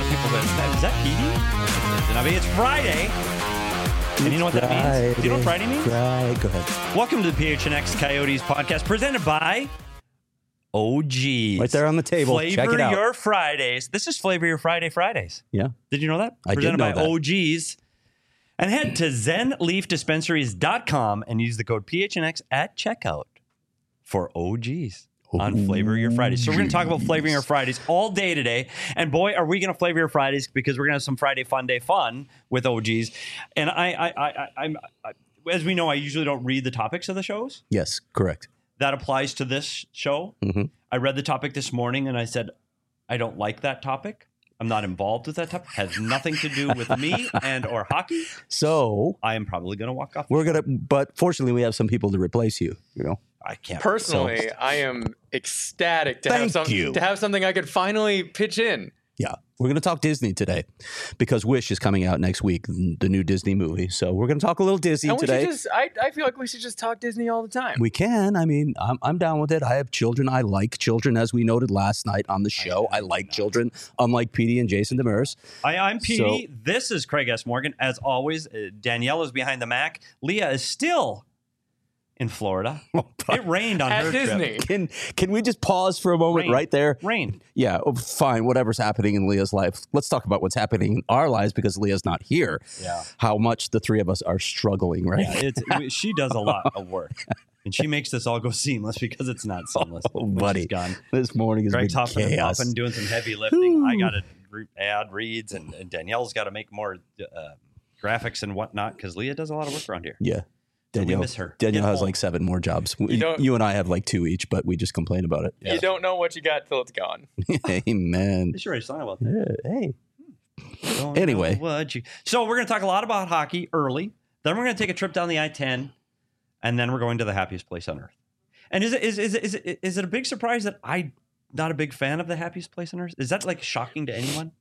lot of people go, is that Petey? I mean, it's Friday. And you know what that means? Do you know what Friday means? Right. Go ahead. Welcome to the PHNX Coyotes podcast presented by OGs. Right there on the table. Flavor Check it out. Your Fridays. This is Flavor Your Fridays. Yeah. Did you know that? I presented did know by that. OGs. And head to zenleafdispensaries.com and use the code PHNX at checkout for OGs. On Flavor Your Fridays. So we're going to talk about flavoring your Fridays all day today. And boy, are we going to flavor your Fridays because we're going to have some Friday Fun Day fun with OGs. And I'm as we know, I usually don't read the topics of the shows. Yes, correct. That applies to this show. Mm-hmm. I read the topic this morning and I said, I don't like that topic. I'm not involved with that topic. Has nothing to do with me and or hockey. So I am probably going to walk off. But fortunately, we have some people to replace you. You know. I can't. Personally, I am ecstatic to Thank you. have something I could finally pitch in. Yeah, we're going to talk Disney today because Wish is coming out next week, the new Disney movie. So we're going to talk a little Disney And today. I feel like we should just talk Disney all the time. We can. I mean, I'm down with it. I have children. I like children, as we noted last night on the show. I like children, unlike Petey and Jason Demers. I'm Petey. This is Craig S. Morgan. As always, Danielle is behind the Mac. Leah is still in Florida. It rained on At her Disney. trip. Can we just pause for a moment right there? Rain. Yeah, fine. Whatever's happening in Leah's life. Let's talk about what's happening in our lives because Leah's not here. Yeah. How much the three of us are struggling, right? Yeah, she does a lot of work. And she makes this all go seamless because it's not seamless. Oh, when buddy. she's gone. This morning has Greg's been hopping and chaos. popping, doing some heavy lifting. I got to add reads, and Danielle's got to make more graphics and whatnot because Leah does a lot of work around here. Yeah. So we Danielle, miss her. Danielle Get has home. like 7 more jobs. don't- You and I have like 2 each, but we just complain about it. You don't know what you got till it's gone. Amen. They should write a song about that. Hey. Don't Anyway. know what you- So we're going to talk a lot about hockey early. Then we're going to take a trip down the I-10, and then we're going to the happiest place on earth. And is it a big surprise that I'm not a big fan of the happiest place on earth? Is that like shocking to anyone?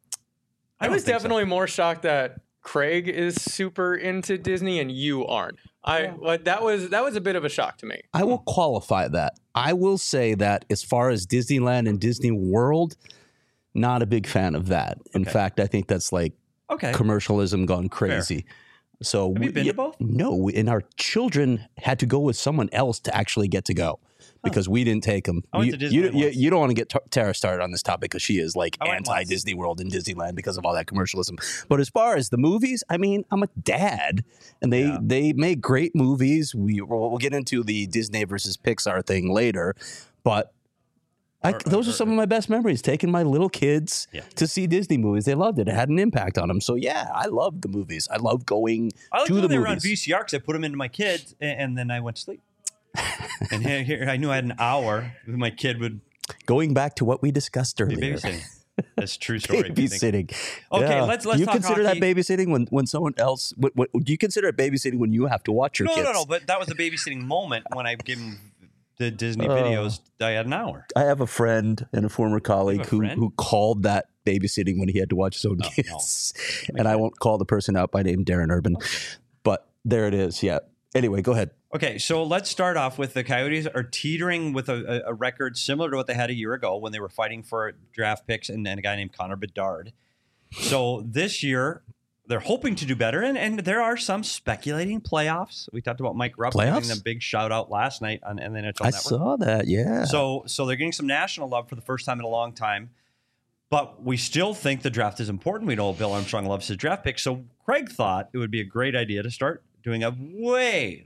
I don't was think so. definitely more shocked that Craig is super into Disney and you aren't. That was a bit of a shock to me. I will qualify that. I will say that as far as Disneyland and Disney World, not a big fan of that. In fact, I think that's like Okay. commercialism gone crazy. So Have you been to both? No, and our children had to go with someone else to actually get to go because we didn't take them. I went to Disneyland once. You don't want to get Tara started on this topic because she is like I went anti-Disney World and Disneyland because of all that commercialism. But as far as the movies, I mean, I'm a dad, and they make great movies. We'll get into the Disney versus Pixar thing later, but those are some of my best memories, taking my little kids to see Disney movies. They loved it. It had an impact on them. So, yeah, I love the movies. I love going I like to when the they were on movies. VCR because I put them into my kids, and then I went to sleep. And here I knew I had an hour. My kid would Going back to what we discussed be earlier. babysitting. That's a true story. Babysitting. Okay, Yeah. let's Do you talk consider hockey. that babysitting when someone else? What do you consider it babysitting when you have to watch your kids? No. But that was a babysitting moment when I gave him the Disney Oh. videos. I had an hour. I have a friend and a former colleague friend? who called that babysitting when he had to watch his own kids. And I won't call the person out by name, Darren Urban. But there it is. Yeah. Anyway, go ahead. Okay, so let's start off with the Coyotes are teetering with a record similar to what they had a year ago when they were fighting for draft picks and a guy named Connor Bedard. So this year, they're hoping to do better, and there are some speculating playoffs. We talked about Mike Rupp giving Playoffs? them a big shout out last night on the NHL I Network. saw that. Yeah. So they're getting some national love for the first time in a long time. But we still think the draft is important. We know Bill Armstrong loves his draft pick. So Craig thought it would be a great idea to start doing a way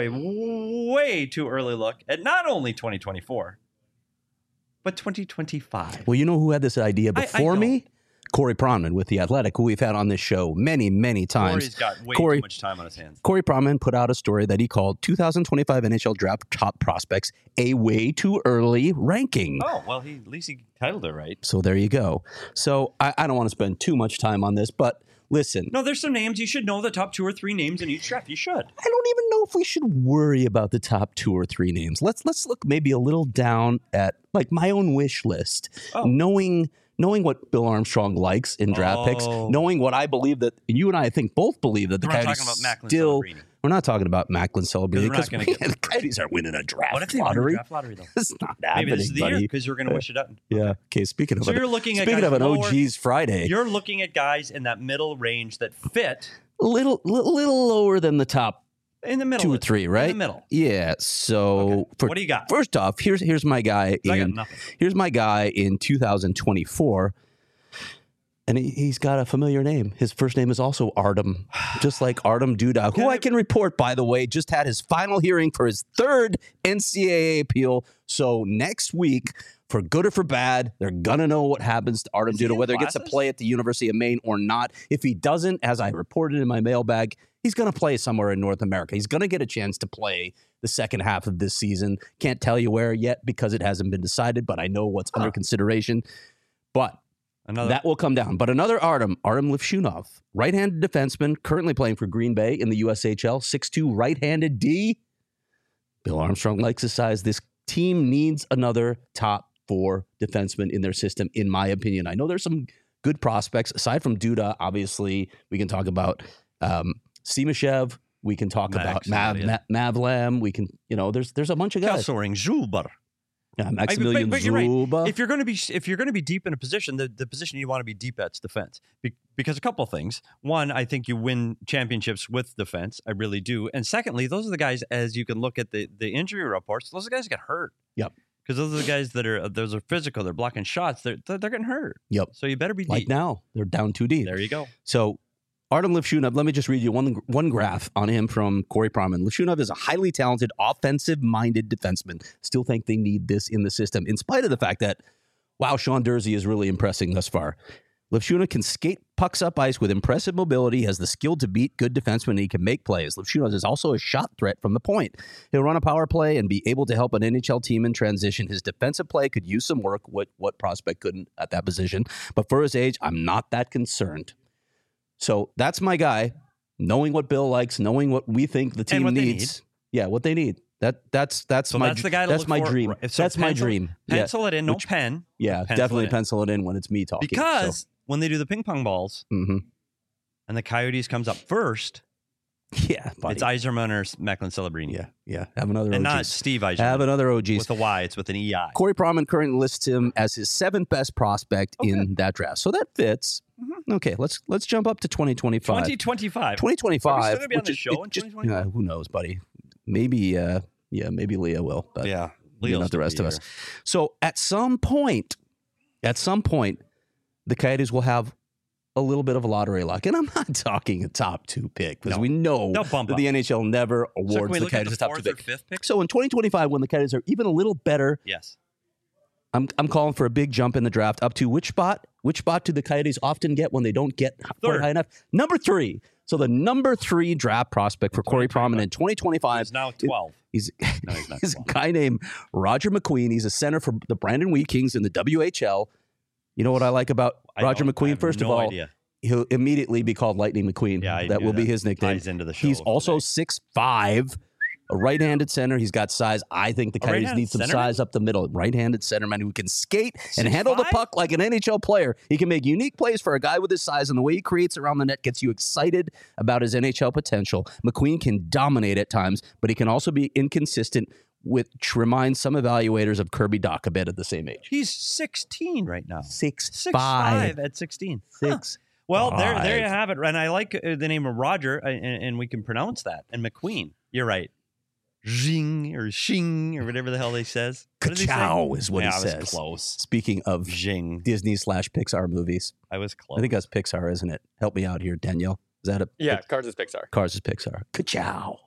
too early look at not only 2024, but 2025. Well, you know who had this idea before don't. me? Corey Pronman with The Athletic, who we've had on this show many, many times. Corey's got way Corey- too much time on his hands. Corey Pronman put out a story that he called 2025 NHL Draft Top Prospects a way too early ranking. Oh, well, at least he titled it right. So there you go. So I don't want to spend too much time on this, but listen, No, there's some names. You should know the top 2 or 3 names in each draft. You should. I don't even know if we should worry about the top 2 or 3 names. Let's look maybe a little down at like my own wish list, knowing what Bill Armstrong likes in draft picks, knowing what I believe that you and I think both believe that the We're not Coyotes talking about Macklin still. Celebrini. We're not talking about Macklin celebrating Because because we're not gonna the Coyotes aren't winning a draft What if they won the lottery. draft lottery, though? It's not happening, Maybe this is the year buddy. because you're going to wish it up. Yeah. Okay. Speaking of So you're looking at speaking guys of an lower- OG's Friday, You're looking at guys in that middle range that fit little lower than the top in the middle. 2 or 3, right? In the middle. Yeah. So What do you got? First off, here's my guy I got in nothing. here's my guy in 2024. And he's got a familiar name. His first name is also Artem, just like Artem Duda, who I can report, by the way, just had his final hearing for his 3rd NCAA appeal. So next week, for good or for bad, they're going to know what happens to Artem Is he Duda, in whether he gets to classes? play at the University of Maine or not. If he doesn't, as I reported in my mailbag, he's going to play somewhere in North America. He's going to get a chance to play the second half of this season. Can't tell you where yet because it hasn't been decided, but I know what's under consideration. But that will come down. But another Artem Lifshunov, right-handed defenseman, currently playing for Green Bay in the USHL, 6'2", right-handed D. Bill Armstrong likes his size. This team needs another top 4 defenseman in their system, in my opinion. I know there's some good prospects. Aside from Duda, obviously, we can talk about Simashev. We can talk about Mavlam. We can, there's a bunch of guys. Kesselring, Zuber. Yeah, Maximilian but you're right. Zuba. If you're going to be deep in a position, the position you want to be deep at's defense. Because a couple of things. One, I think you win championships with defense. I really do. And secondly, those are the guys, as you can look at the injury reports, those are the guys that get hurt. Yep. Because those are the guys that are physical. They're blocking shots. They're getting hurt. Yep. So you better be deep. Like now, they're down 2 deep. There you go. So Artem Lifshunov, let me just read you one graph on him from Corey Proman. Lifshunov is a highly talented, offensive-minded defenseman. Still think they need this in the system, in spite of the fact that, wow, Sean Dursey is really impressing thus far. Lifshunov can skate pucks up ice with impressive mobility, has the skill to beat good defensemen, and he can make plays. Lifshunov is also a shot threat from the point. He'll run a power play and be able to help an NHL team in transition. His defensive play could use some work, what prospect couldn't at that position. But for his age, I'm not that concerned. So that's my guy, knowing what Bill likes, knowing what we think the team needs. Yeah, what they need. That's So my that's the guy to that's look my for. dream. So That's my dream. Pencil it in, no pen. Yeah, definitely pencil it in when it's me talking. Because when they do the ping pong balls and the Coyotes comes up first, yeah, buddy. it's Yzerman or Macklin Celebrini. Yeah. Have another And OGs. not Steve Yzerman. Have another OGs. With a Y, it's with an EI. Corey Proman currently lists him as his 7th best prospect in that draft. So that fits. Okay, let's jump up to 2025. 2025. 2025. Are we still gonna be on which the is- show in it just- 2025? who knows, buddy? Maybe maybe Leah will, but Yeah. maybe not the rest of us. So at some point, the Coyotes will have a little bit of a lottery luck. And I'm not talking a top 2 pick because we know They'll that bump up. the NHL never So can awards we the look at Coyotes the a top 2 4th or pick. 5th pick? So in 2025, when the Coyotes are even a little better, Yes. I'm calling for a big jump in the draft up to which spot? Which spot do the Coyotes often get when they don't get quite high enough? Number 3. So the number 3 draft prospect for Corey Proman in 2025 He's now 12. He's No, he's not he's a 12. guy named Roger McQueen. He's a center for the Brandon Wheat Kings in the WHL. You know what I like about Roger McQueen? First of all, idea. he'll immediately be called Lightning McQueen. Yeah, I that knew will be that. his nickname. Ties into the show He's of also today. 6'5", a right-handed center. He's got size. I think the Coyotes right-handed need some centerman? size up the middle. Right-handed centerman who can skate and handle the 6'5"? puck like an NHL player. He can make unique plays for a guy with his size, and the way he creates around the net gets you excited about his NHL potential. McQueen can dominate at times, but he can also be inconsistent, which reminds some evaluators of Kirby Dach a bit at the same age. He's 16 right now. 6'5". 6'5" at 16. Huh. 6'5". Well, there you have it. And I like the name of Roger, and we can pronounce that. And McQueen, you're right. Jing or Shing or whatever the hell they says. What did they say? Ka-chow is what he I was says. close. Speaking of Jing. Disney/Pixar movies, I was close. I think that's Pixar, isn't it? Help me out here, Danielle. Is that a Yeah, Cars is Pixar. Cars is Pixar? Ka-chow.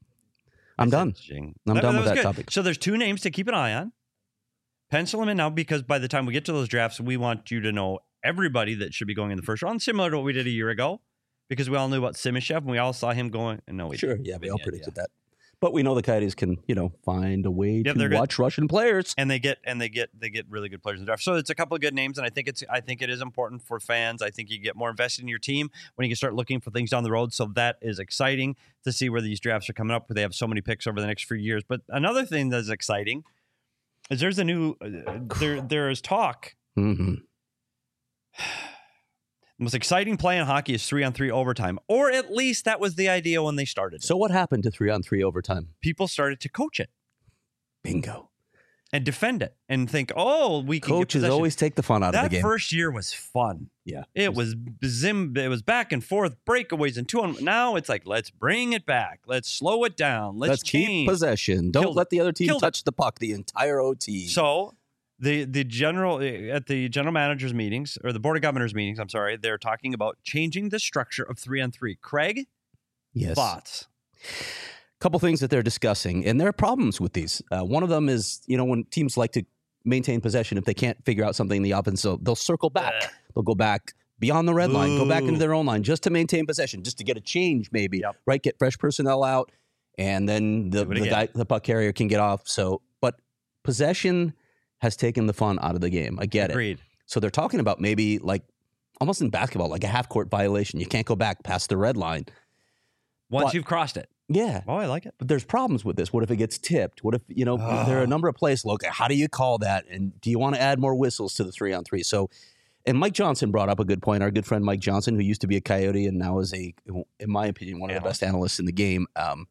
I'm done. Jing. I'm done with was that good. topic. So there's 2 names to keep an eye on. Pencil them in now because by the time we get to those drafts, we want you to know everybody that should be going in the first round, similar to what we did a year ago, because we all knew about Simashev and we all saw him going. And no, we Sure, didn't. yeah, we all predicted that. But we know the Coyotes can, find a way Yeah, to they're good. watch Russian players. And they get really good players in the draft. So it's a couple of good names, and I think it is important for fans. I think you get more invested in your team when you can start looking for things down the road. So that is exciting to see where these drafts are coming up. Where they have so many picks over the next few years. But another thing that's exciting is there's a new there is talk. Mm-hmm. The most exciting play in hockey is 3-on-3 overtime, or at least that was the idea when they started. So what happened to 3-on-3 overtime? People started to coach it Bingo. and defend it and think, oh, we can Coaches get possession. always take the fun out of the That game. first year was fun. Yeah. It was back and forth, breakaways and 2-on. Now it's like, let's bring it back. Let's slow it down. Let's keep change. possession. Don't Killed let the other team Killed it. touch the puck the entire OT. So the general at the general managers meetings or the board of governors meetings, I'm sorry, they're talking about changing the structure of 3-on-3. Craig, yes. thoughts? Couple things that they're discussing, and there are problems with these. One of them is, when teams like to maintain possession, if they can't figure out something in the offense, they'll circle back. They'll go back beyond the red line, go back into their own line just to maintain possession, just to get a change maybe, Yep. right? Get fresh personnel out, and then the puck carrier can get off. So, but possession has taken the fun out of the game. I get it. Agreed. So they're talking about maybe like almost in basketball, like a half-court violation. You can't go back past the red line. Once But- you've crossed it. Yeah. Oh, I like it. But there's problems with this. What if it gets tipped? What if, there are a number of plays. Look, how do you call that? And do you want to add more whistles to the 3-on-3? So, and Mike Johnson brought up a good point. Our good friend Mike Johnson, who used to be a Coyote and now is in my opinion, one of the best analysts in the game.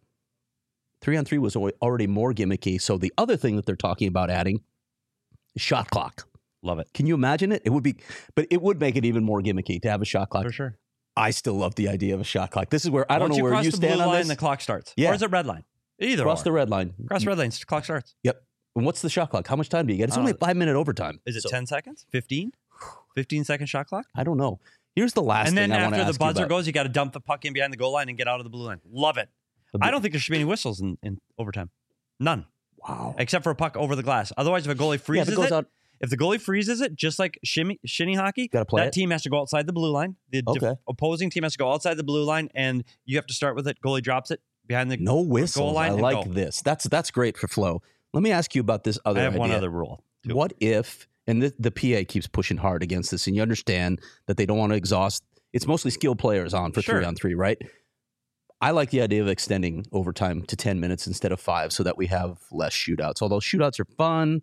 3-on-3 was already more gimmicky. So the other thing that they're talking about adding is shot clock. Love it. Can you imagine it? It would make it even more gimmicky to have a shot clock. For sure. I still love the idea of a shot clock. This is where I don't Once know where cross you the stand blue on line, this. the clock starts. Yeah. Or is it red line? Either Cross or. the red line. Cross red line, clock starts. Yep. And what's the shot clock? How much time do you get? It's only a 5-minute overtime. Is it So, 10 seconds? 15? 15-second shot clock? I don't know. Here's the last And thing then I want to after ask the buzzer you about. goes, you got to dump the puck in behind the goal line and get out of the blue line. Love it. I don't think there should be any whistles in overtime. None. Wow. Except for a puck over the glass. Otherwise, if a goalie freezes goes it, out- if the goalie freezes it, just like shinny hockey, Gotta play that it. team has to go outside the blue line. The Okay. opposing team has to go outside the blue line, and you have to start with it. Goalie drops it behind the No whistles. line I and like go. this. That's great for flow. Let me ask you about this other I have idea. one other rule. too. What if, and the PA keeps pushing hard against this, and you understand that they don't want to exhaust. It's mostly skilled players on for Sure. 3-on-3, right? I like the idea of extending overtime to 10 minutes instead of 5 so that we have less shootouts. Although shootouts are fun.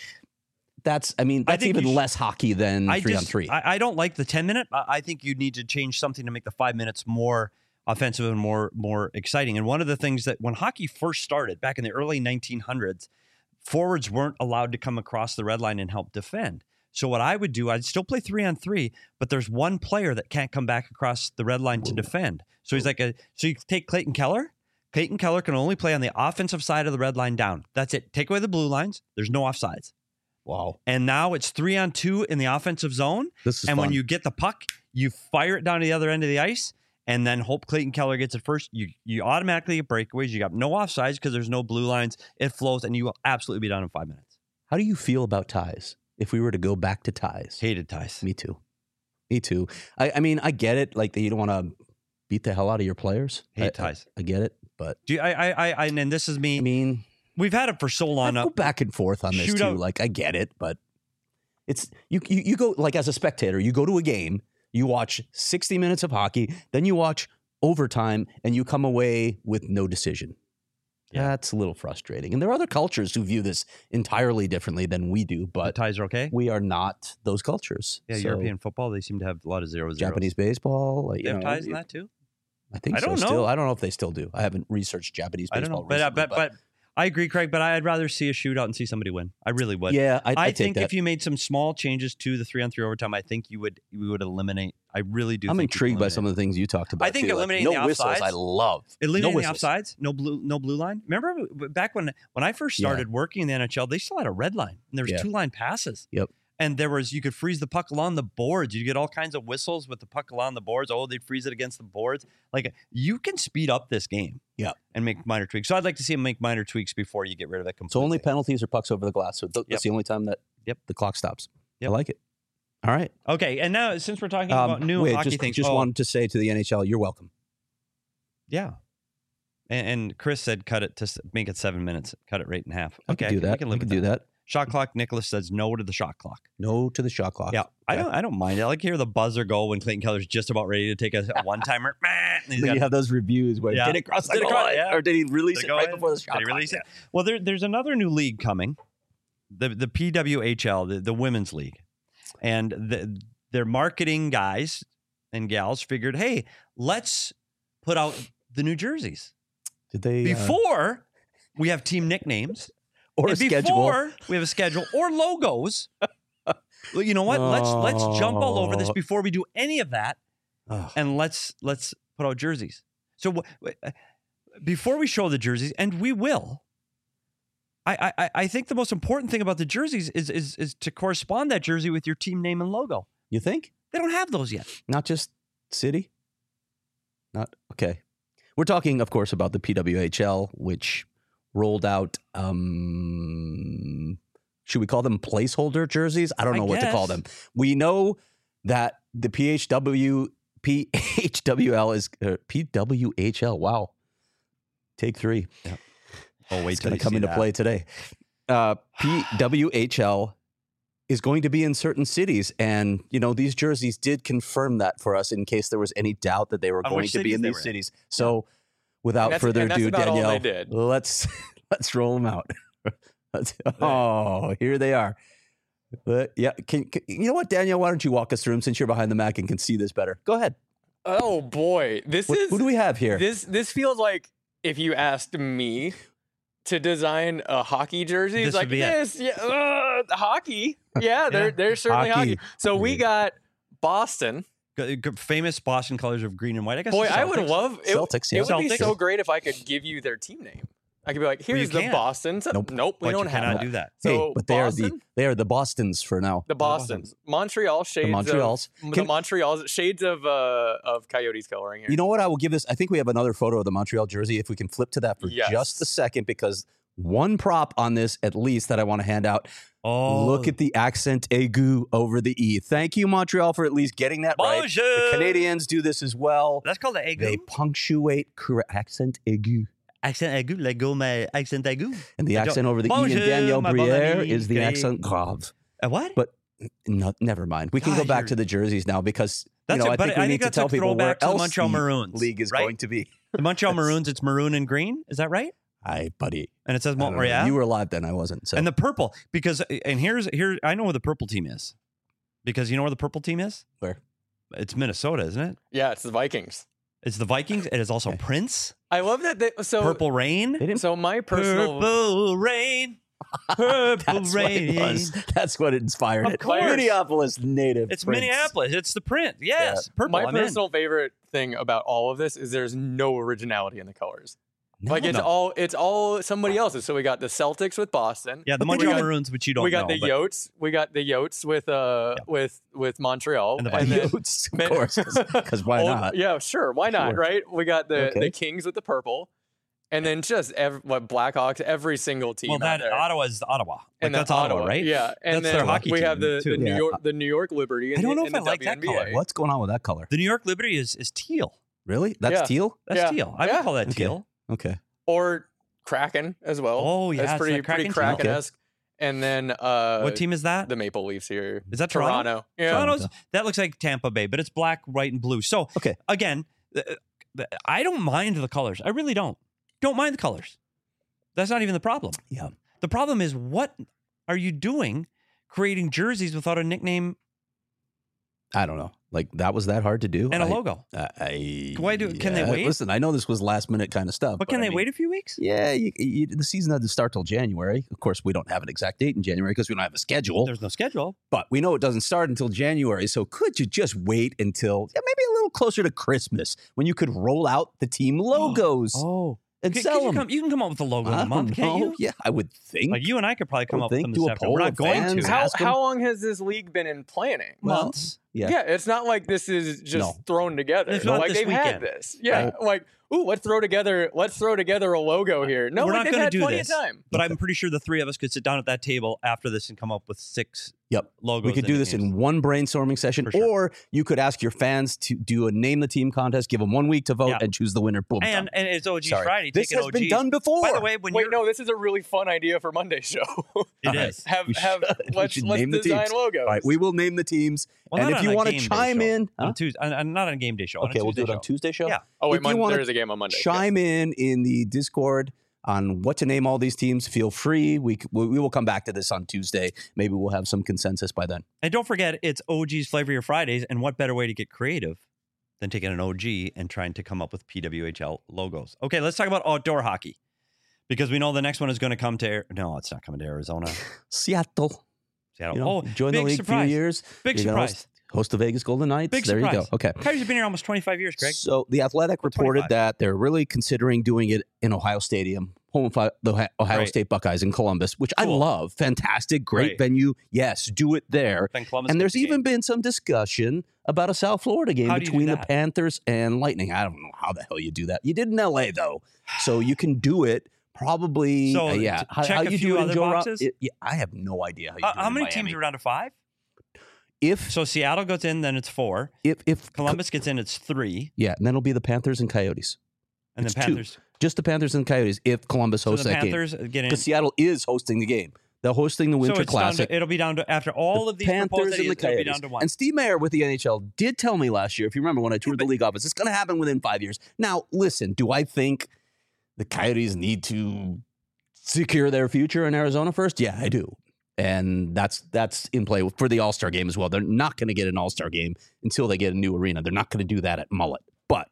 That's think even you should- less hockey than 3-on-3. I don't like the 10-minute. I think you need to change something to make the 5 minutes more offensive and more exciting. And one of the things that when hockey first started back in the early 1900s, forwards weren't allowed to come across the red line and help defend. So what I would do, I'd still play 3-on-3, but there's one player that can't come back across the red line to defend. So he's so you take Clayton Keller. Clayton Keller can only play on the offensive side of the red line down. That's it. Take away the blue lines. There's no offsides. Wow. And now it's 3-on-2 in the offensive zone. This is And when fun. you get the puck, you fire it down to the other end of the ice and then hope Clayton Keller gets it first. You automatically get breakaways. You got no offsides because there's no blue lines. It flows, and you will absolutely be done in 5 minutes. How do you feel about ties? If we were to go back to ties. Hated ties. Me too. Me too. I mean, I get it. Like, you don't want to beat the hell out of your players. Hate ties. I get it. But, Do you, I and this is me. I mean, We've had it for so I long. go back and forth on this too. Shootout. Like, I get it. But it's, you go, like, as a spectator, you go to a game, you watch 60 minutes of hockey, then you watch overtime, and you come away with no decision. Yeah. That's a little frustrating. And there are other cultures who view this entirely differently than we do, The but ties are okay. we are not those cultures. Yeah, So, European football, they seem to have a lot of zeros. Japanese baseball. Like, They have ties in that too? I think I so don't still. know. I don't know if they still do. I haven't researched Japanese I don't baseball know. recently, But I agree, Craig, but I'd rather see a shootout and see somebody win. I really would. yeah, I I take think that. if you made some small changes to the 3-on-3 overtime, I think we would eliminate. I really do. I'm think intrigued by some of the things you talked about. I think too. Like, eliminating no the whistles. offsides- I love eliminating no the whistles. offsides, no blue line. Remember back when I first started working in the NHL, they still had a red line and there was Yeah. 2-line passes. Yep. And you could freeze the puck along the boards. You get all kinds of whistles with the puck along the boards. Oh, they freeze it against the boards. Like, you can speed up this game. Yeah. And make minor tweaks. So I'd like to see them make minor tweaks before you get rid of it So completely. only penalties or pucks over the glass. So that's Yep. the only time that the clock stops. Yep. I like it. All right. Okay, and now since we're talking about new wait, hockey just, things, just wanted to say to the NHL, you're welcome. yeah. And Chris said make it 7 minutes. Cut it right in half. I Okay, can do that. We can live with do that. Shot clock. Nicholas says no to the shot clock. No to the shot clock. Yeah, Okay. I don't mind. I like to hear the buzzer go when Clayton Keller's just about ready to take a one-timer. Then you have those reviews where Yeah. did it cross the Did it goal cross- line? yeah. Or did he release Did it it go right in? before the shot Did he clock? release it? Well, there's another new league coming, the PWHL, the women's league, and their marketing guys and gals figured, hey, let's put out the new jerseys Did they before we have team nicknames or a and schedule? before we have a schedule or logos. Well, you know what? Let's jump all over this before we do any of that, Ugh. and let's put out jerseys. So before we show the jerseys, and we will, I think the most important thing about the jerseys is to correspond that jersey with your team name and logo. You think? They don't have those yet. Not just city? Not okay. We're talking, of course, about the PWHL, which rolled out should we call them placeholder jerseys? I don't know what to call them. We know that the PHWL is PWHL. Wow. Take 3. Yep. Oh, wait, it's going to come into play today. PWHL is going to be in certain cities. And, you know, these jerseys did confirm that for us in case there was any doubt that they were going to be in these cities. So without further ado, Danielle, let's roll them out. Oh, here they are. Yeah. Can, you know what, Danielle, why don't you walk us through them since you're behind the Mac and can see this better? Go ahead. Oh boy. Who do we have here? This feels like if you asked me to design a hockey jersey, it's like this, hockey. Yeah, they're certainly hockey. So we got Boston. Famous Boston colors of green and white. I guess. Boy, I would love it. Celtics, yeah. It would be so great if I could give you their team name. I could be like, here's the Boston. Nope, we don't have that. Do that. So hey, but they are the Bostons for now. The Bostons. Montreal shades. The Montreals shades of Coyotes coloring here. You know what? I will give this. I think we have another photo of the Montreal jersey. If we can flip to that for just a second, because one prop on this at least that I want to hand out. Oh, look at the accent aigu over the E. Thank you, Montreal, for at least getting that right. The Canadians do this as well. That's called the aigu. They punctuate accent aigu. Accent aigu, let go my accent aigu. And the accent over the E in Danielle Briere is the accent grave. What? But no, never mind. We can go back to the jerseys now because I think we need to tell people where else Montreal Maroons league is going to be. The Montreal Maroons, it's maroon and green. Is that right? Aye, buddy. And it says Montreal. You were alive then, I wasn't. So. And the purple, because here I know where the purple team is. Because you know where the purple team is? Where? It's Minnesota, isn't it? Yeah, it's the Vikings. It's the Vikings. It is also Prince. I love that. Purple Rain. So my personal Purple Rain. Purple Rain. What it was. That's what inspired it. Minneapolis native. It's Prince. Minneapolis. It's the Prince. Yes. Yeah. Purple. My personal favorite thing about all of this is there's no originality in the colors. It's all somebody else's. So we got the Celtics with Boston. Yeah, the Montreal Maroons, which you don't know. We got the Yotes. We got the Yotes with Montreal. And the Yotes, of course, because why not? Yeah, sure, why not, right? We got the Kings with the purple. And then just Blackhawks, every single team. Well, that Ottawa is Ottawa. And that's Ottawa, right? Yeah, and that's their hockey we team have the New York Liberty. I don't know if I like that color. What's going on with that color? The New York Liberty is teal. Really? That's teal? That's teal. I would call that teal. Okay. Or Kraken as well. Oh yeah, that's pretty Kraken-esque. And then what team is that? The Maple Leafs here. Is that Toronto? Yeah. That looks like Tampa Bay, but it's black, white, and blue. So again, I don't mind the colors. I really don't. Don't mind the colors. That's not even the problem. Yeah. The problem is, what are you doing creating jerseys without a nickname? I don't know. Like, that was that hard to do? And a logo. Why can they wait? Listen, I know this was last minute kind of stuff. But can they wait a few weeks? Yeah, the season doesn't start till January. Of course, we don't have an exact date in January because we don't have a schedule. There's no schedule. But we know it doesn't start until January. So could you just wait until maybe a little closer to Christmas when you could roll out the team logos? And sell them. You can come up with a logo in a month, can't you? Yeah, I would think. Like you and I could probably come up with them this afternoon. We're not going to. How long has this league been in planning? Months. Yeah, it's not like this is just thrown together. It's not like this they've weekend. had this. Yeah, like let's throw together a logo here. No, we're not going to do this. Time. But I'm pretty sure the three of us could sit down at that table after this and come up with 6 logos. We could do this in one brainstorming session, or you could ask your fans to do a name the team contest, give them 1 week to vote, and choose the winner. Boom. And it's OG Friday. This has been done before. By the way, this is a really fun idea for Monday's show. It is. Let's design logos. All right, we will name the teams, and if you want to chime in on Tuesday, not on a game day show. Okay, we'll do it on Tuesday show. Yeah. Oh wait, there is a game on Monday. Chime in the Discord on what to name all these teams. Feel free. We will come back to this on Tuesday. Maybe we'll have some consensus by then. And don't forget, it's OG's Flavor Your Fridays, and what better way to get creative than taking an OG and trying to come up with PWHL logos. Okay, let's talk about outdoor hockey because we know the next one is going to come to no, it's not coming to Arizona. Seattle. Join the league surprise. A few years. Big surprise. Host the Vegas Golden Knights. Big there surprise. You go. Okay. Coyotes have been here almost 25 years, Greg. So the Athletic reported 25. that they're really considering doing it in Ohio Stadium, home of the Ohio State Buckeyes in Columbus, which I love. Fantastic, great venue. Yes, do it there. And there's even been some discussion about a South Florida game between the Panthers and Lightning. I don't know how the hell you do that. You did in LA though, so you can do it. Probably, so how you do it in Joe boxes? I have no idea how you do it. How many in teams are down to 5? So Seattle goes in, then it's 4. If Columbus gets in, it's 3. Yeah, and then it'll be the Panthers and Coyotes. And the Panthers, 2. Just the Panthers and Coyotes. If Columbus hosts that game, because Seattle is hosting the game. They're hosting the Winter Classic. It'll be down to after all of these Panthers and the Coyotes. It'll be down to 1. And Steve Mayer with the NHL did tell me last year, if you remember when I toured the league office, it's going to happen within 5 years. Now, listen, do I think the Coyotes need to secure their future in Arizona first? Yeah, I do. And that's in play for the All-Star game as well. They're not going to get an All-Star game until they get a new arena. They're not going to do that at Mullet. But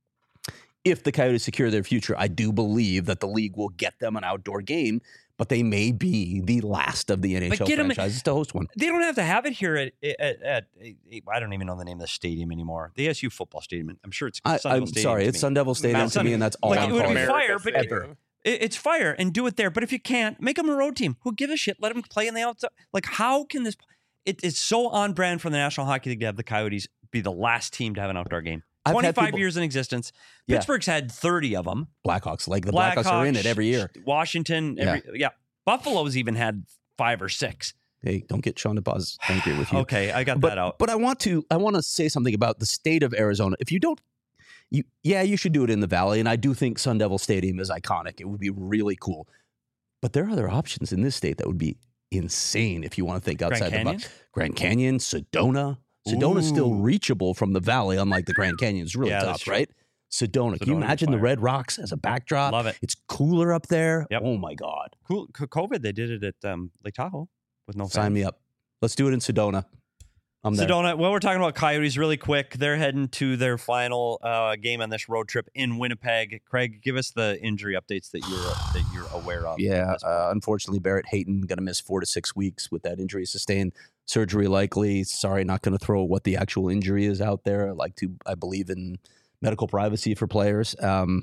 if the Coyotes secure their future, I do believe that the league will get them an outdoor game, but they may be the last of the NHL franchises to host one. They don't have to have it here at I don't even know the name of the stadium anymore. The ASU football stadium. I'm sure it's Sun Devil I'm Stadium. Sorry, it's Sun Devil Stadium to me, and that's all I'm calling it. It would be fire, but it's fire, and do it there. But if you can't, make them a road team. Who gives a shit? Let them play in the outside. Like, how can this? It's so on brand for the National Hockey League to have the Coyotes be the last team to have an outdoor game. 25 years in existence. Pittsburgh's had 30 of them. Blackhawks, Blackhawks are in it every year. Washington, Buffalo's even had 5 or 6. Hey, don't get Sean DePaz angry with you. Okay, I got that out. But I want to say something about the state of Arizona. If you don't, you should do it in the Valley, and I do think Sun Devil Stadium is iconic. It would be really cool. But there are other options in this state that would be insane if you want to think outside the box. Grand Canyon, Sedona. Sedona's still reachable from the Valley, unlike the Grand Canyon. It's really tough, right? Sedona. Can you imagine the Red Rocks as a backdrop? Love it. It's cooler up there. Yep. Oh, my God. Cool. COVID, they did it at Lake Tahoe with no fans. Sign me up. Let's do it in Sedona. I'm there. Sedona. Well, we're talking about Coyotes really quick. They're heading to their final game on this road trip in Winnipeg. Craig, give us the injury updates that you're aware of. Yeah, unfortunately, Barrett Hayton going to miss 4 to 6 weeks with that injury sustained. Surgery likely. Sorry, not going to throw what the actual injury is out there. I believe in medical privacy for players.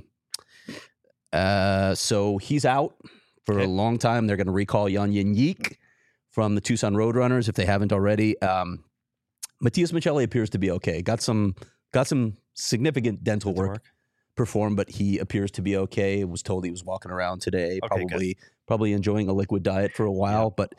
So he's out for a long time. They're going to recall Jan Yenik from the Tucson Roadrunners if they haven't already. Matias Michelli appears to be okay. Got some significant dental work performed, but he appears to be okay. Was told he was walking around today, probably enjoying a liquid diet for a while, but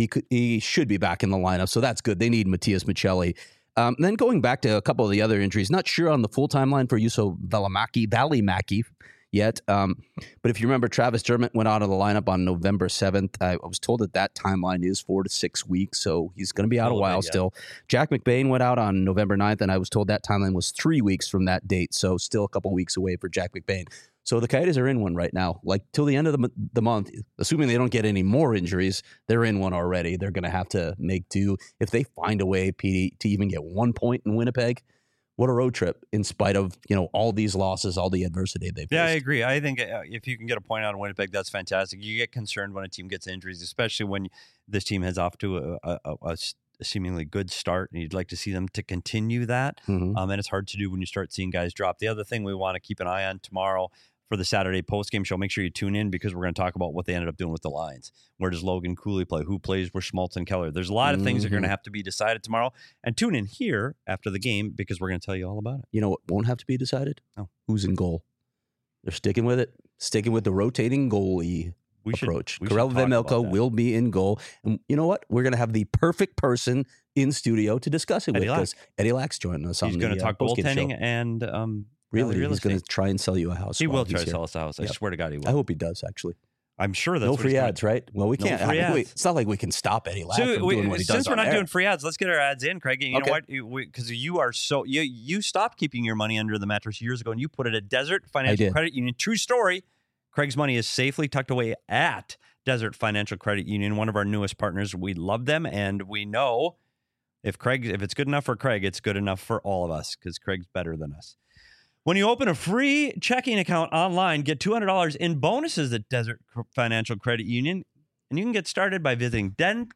he should be back in the lineup, so that's good. They need Matias Michelli. Then going back to a couple of the other injuries, not sure on the full timeline for Juuso Välimäki yet. But if you remember, Travis Dermott went out of the lineup on November 7th. I was told that timeline is 4 to 6 weeks, so he's going to be out a while still. Jack McBain went out on November 9th, and I was told that timeline was 3 weeks from that date, so still a couple weeks away for Jack McBain. So the Coyotes are in one right now. Till the end of the month, assuming they don't get any more injuries, they're in one already. They're going to have to make do. If they find a way, Petey, to even get 1 point in Winnipeg, what a road trip in spite of all these losses, all the adversity they've faced. Yeah, I agree. I think if you can get a point out of Winnipeg, that's fantastic. You get concerned when a team gets injuries, especially when this team heads off to a seemingly good start, and you'd like to see them to continue that. Mm-hmm. And it's hard to do when you start seeing guys drop. The other thing we want to keep an eye on tomorrow for the Saturday postgame show, make sure you tune in because we're going to talk about what they ended up doing with the Lions. Where does Logan Cooley play? Who plays with Schmaltz and Keller? There's a lot of things that are going to have to be decided tomorrow. And tune in here after the game because we're going to tell you all about it. You know what won't have to be decided? Oh. Who's in goal? They're sticking with it. Sticking with the rotating goalie approach. Karel Vejmelka will be in goal. And you know what? We're going to have the perfect person in studio to discuss it with us. Eddie Lack's joining us on the He's going to talk goaltending and really, he's going to try and sell you a house. He will try to sell us a house. I swear to God he will. I hope he does, actually. I'm sure that's no free ads, right? Well, we can't. It's not like we can stop Eddie Lack from doing what he does. Since we're not doing free ads, let's get our ads in, Craig. You know what? Because you are you stopped keeping your money under the mattress years ago, and you put it at Desert Financial Credit Union. True story. Craig's money is safely tucked away at Desert Financial Credit Union, one of our newest partners. We love them, and we know If it's good enough for Craig, it's good enough for all of us because Craig's better than us. When you open a free checking account online, get $200 in bonuses at Desert Financial Credit Union. And you can get started by visiting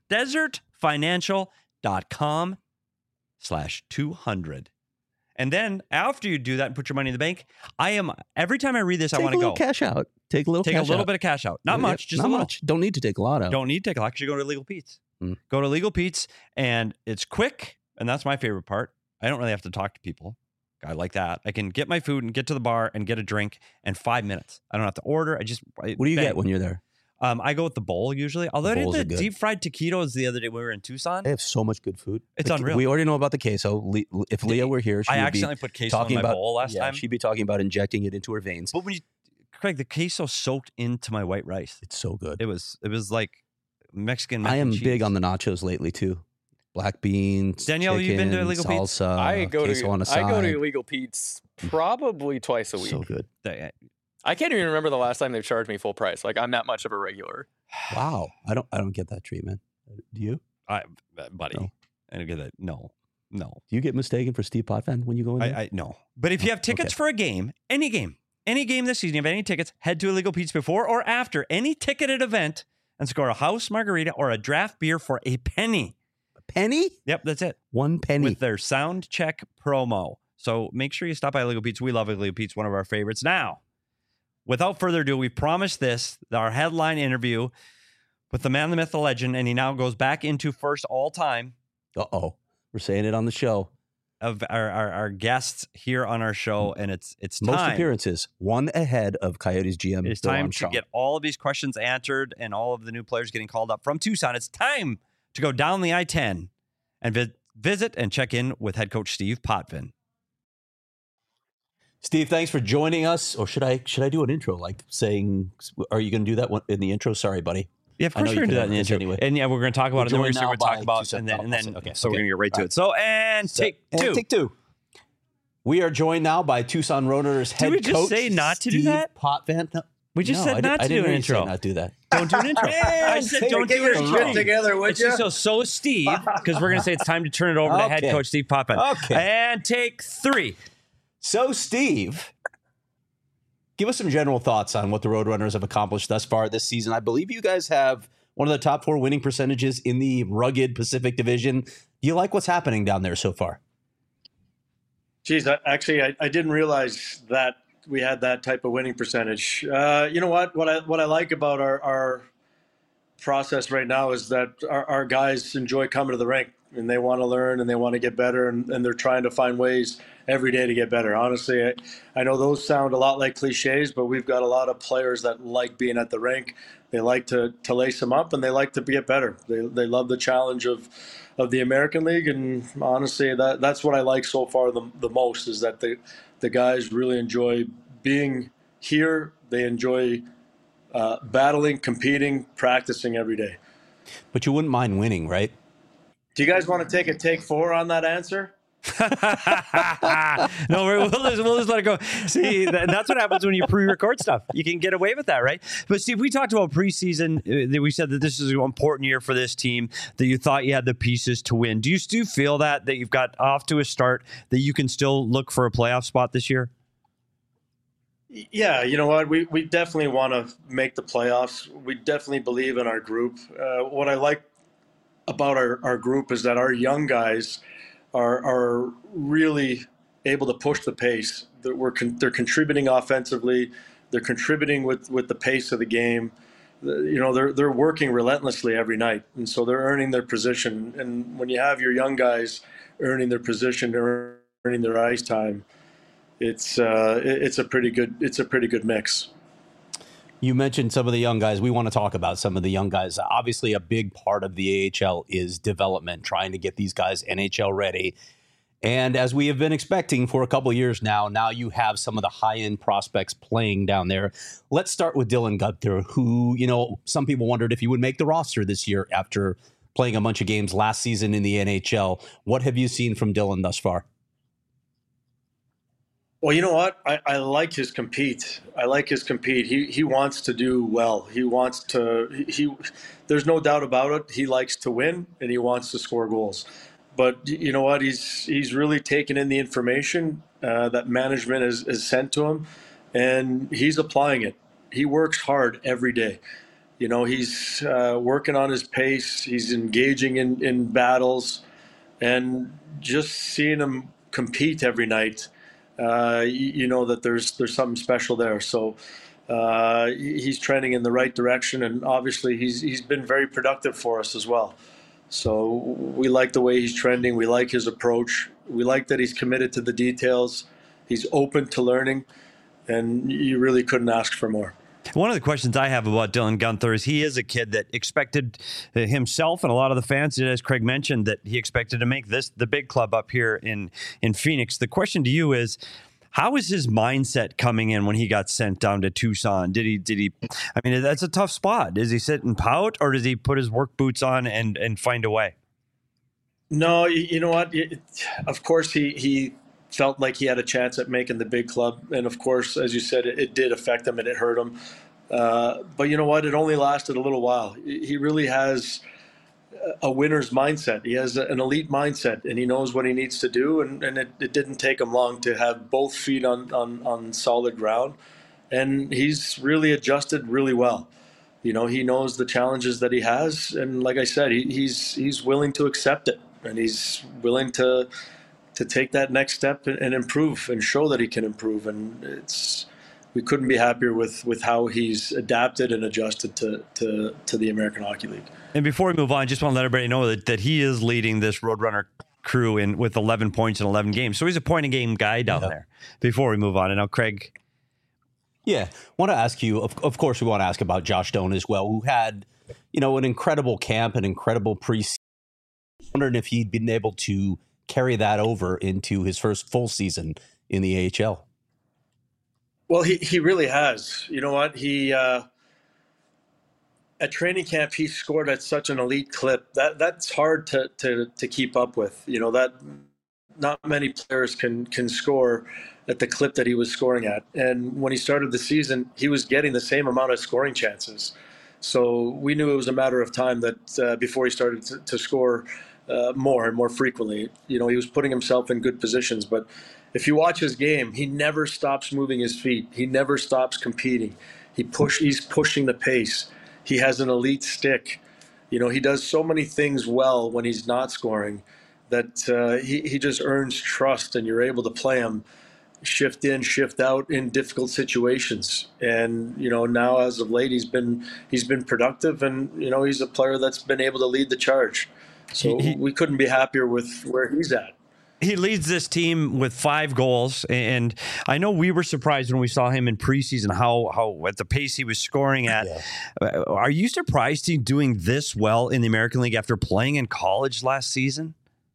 desertfinancial.com/200. And then after you do that and put your money in the bank, every time I read this, I want to go. Cash out. Take a little bit of cash out. Not much, just not a little. Much. Don't need to take a lot out. Don't need to take a lot because you go to Legal Pete's. Go to Legal Pete's, and it's quick, and that's my favorite part. I don't really have to talk to people. I like that. I can get my food and get to the bar and get a drink in 5 minutes. I don't have to order. What do you get when you're there? I go with the bowl usually. Although I did the deep fried taquitos the other day when we were in Tucson. They have so much good food. It's unreal. We already know about the queso. If Leah were here, I accidentally put queso in my bowl last time. She'd be talking about injecting it into her veins. But Craig, the queso soaked into my white rice. It's so good. It was like Mexican mac I am and cheese. big on the nachos lately too. Black beans, Danielle, chicken, you've been to Illegal Pete's? Salsa, I go to side. Illegal Pete's probably twice a week. So good. I can't even remember the last time they've charged me full price. Like I'm that much of a regular. Wow, I don't get that treatment. Do you, buddy? No. I don't get that. No. Do you get mistaken for Steve Potvin when you go in there? No. But if you have tickets for a game, any game this season, you have any tickets, head to Illegal Pete's before or after any ticketed event and score a house margarita or a draft beer for a penny. Penny? Yep, that's it. 1 penny. With their sound check promo. So make sure you stop by Illegal Pete's. We love Illegal Pete's, one of our favorites. Now, without further ado, we promised our headline interview with the man, the myth, the legend, and he now goes back into first all time. Uh-oh. We're saying it on the show. Of our guests here on our show, and it's time. Most appearances, one ahead of Coyotes GM. It's time to get all of these questions answered and all of the new players getting called up from Tucson. It's time to go down the I-10 and visit and check in with head coach Steve Potvin. Steve, thanks for joining us. Or should I do an intro, like saying, are you going to do that in the intro? Sorry, buddy. Yeah, of course we're going to do that in the intro. Anyway. And yeah, we're going to talk about it. Then we're going to talk about and then okay. So we're going to get right to it. So, take two. We are joined now by Tucson Roadrunners head coach. Did we just say not to do that? Potvin? No. We just said not to do an intro. Not do that. Don't do an intro. I said don't do an intro. Together, would you? So Steve, because we're going to say it's time to turn it over to head coach Steve Potvin. Okay. And take 3. So Steve, give us some general thoughts on what the Roadrunners have accomplished thus far this season. I believe you guys have one of the top 4 winning percentages in the rugged Pacific Division. Do you like what's happening down there so far? Geez, actually, I didn't realize that we had that type of winning percentage. You know what? What I like about our process right now is that our guys enjoy coming to the rink and they want to learn and they want to get better and they're trying to find ways every day to get better. Honestly, I know those sound a lot like cliches, but we've got a lot of players that like being at the rink. They like to lace them up and they like to get better. They love the challenge of the American League, and honestly, that's what I like so far the most is that the guys really enjoy being here. They enjoy battling, competing, practicing every day. But you wouldn't mind winning, right? Do you guys want to take 4 on that answer? No, we'll just let it go. See, that's what happens when you pre-record stuff. You can get away with that, right? But Steve, we talked about preseason. We said that this is an important year for this team, that you thought you had the pieces to win. Do you still feel that you've got off to a start, that you can still look for a playoff spot this year? Yeah, you know what? We definitely want to make the playoffs. We definitely believe in our group. What I like about our group is that our young guys are really able to push the pace. They're contributing offensively. They're contributing with the pace of the game. You know, they're working relentlessly every night, and so they're earning their position. And when you have your young guys earning their position, earning their ice time, it's a pretty good mix. You mentioned some of the young guys. We want to talk about some of the young guys. Obviously, a big part of the AHL is development, trying to get these guys NHL ready. And as we have been expecting for a couple of years now you have some of the high-end prospects playing down there. Let's start with Dylan Guenther, who, you know, some people wondered if he would make the roster this year after playing a bunch of games last season in the NHL. What have you seen from Dylan thus far? Well, you know what? I like his compete. He wants to do well. There's no doubt about it. He likes to win and he wants to score goals. but you know what? He's really taken in the information that management has sent to him, and he's applying it. He works hard every day. You know, he's working on his pace. He's engaging in battles, and just seeing him compete every night, you know that there's something special there. So he's trending in the right direction, and obviously he's been very productive for us as well. So we like the way he's trending. We like his approach. We like that he's committed to the details. He's open to learning, and you really couldn't ask for more. One of the questions I have about Dylan Guenther is he is a kid that expected himself and a lot of the fans, as Craig mentioned, that he expected to make this the big club up here in Phoenix. The question to you is, how was his mindset coming in when he got sent down to Tucson? Did he? I mean, that's a tough spot. Does he sit and pout, or does he put his work boots on and find a way? No, you know what? Of course, he felt like he had a chance at making the big club, and of course, as you said, it did affect him and it hurt him. But you know what? It only lasted a little while. He really has a winner's mindset. He has an elite mindset, and he knows what he needs to do. And it didn't take him long to have both feet on solid ground. And he's really adjusted really well. You know, he knows the challenges that he has. And like I said, he's willing to accept it. And he's willing to take that next step and improve and show that he can improve. And we couldn't be happier with how he's adapted and adjusted to the American Hockey League. And before we move on, just want to let everybody know that he is leading this Roadrunner crew with 11 points in 11 games. So he's a point-a-game guy down there before we move on. And now, Craig. Yeah, want to ask you, of course, we want to ask about Josh Doan as well, who had, an incredible camp, an incredible preseason. Wondering if he'd been able to carry that over into his first full season in the AHL. Well, he really has. You know what? At training camp, he scored at such an elite clip that's hard to keep up with. You know, that not many players can score at the clip that he was scoring at. And when he started the season, he was getting the same amount of scoring chances. So we knew it was a matter of time that before he started to score more and more frequently. You know, he was putting himself in good positions. But if you watch his game, he never stops moving his feet. He never stops competing. He's pushing the pace. He has an elite stick. You know, he does so many things well when he's not scoring that he just earns trust, and you're able to play him shift in, shift out in difficult situations. And, you know, now as of late, he's been productive, and, you know, he's a player that's been able to lead the charge. So we couldn't be happier with where he's at. He leads this team with 5 goals, and I know we were surprised when we saw him in preseason how at the pace he was scoring at. Yeah. Are you surprised he's doing this well in the American League after playing in college last season?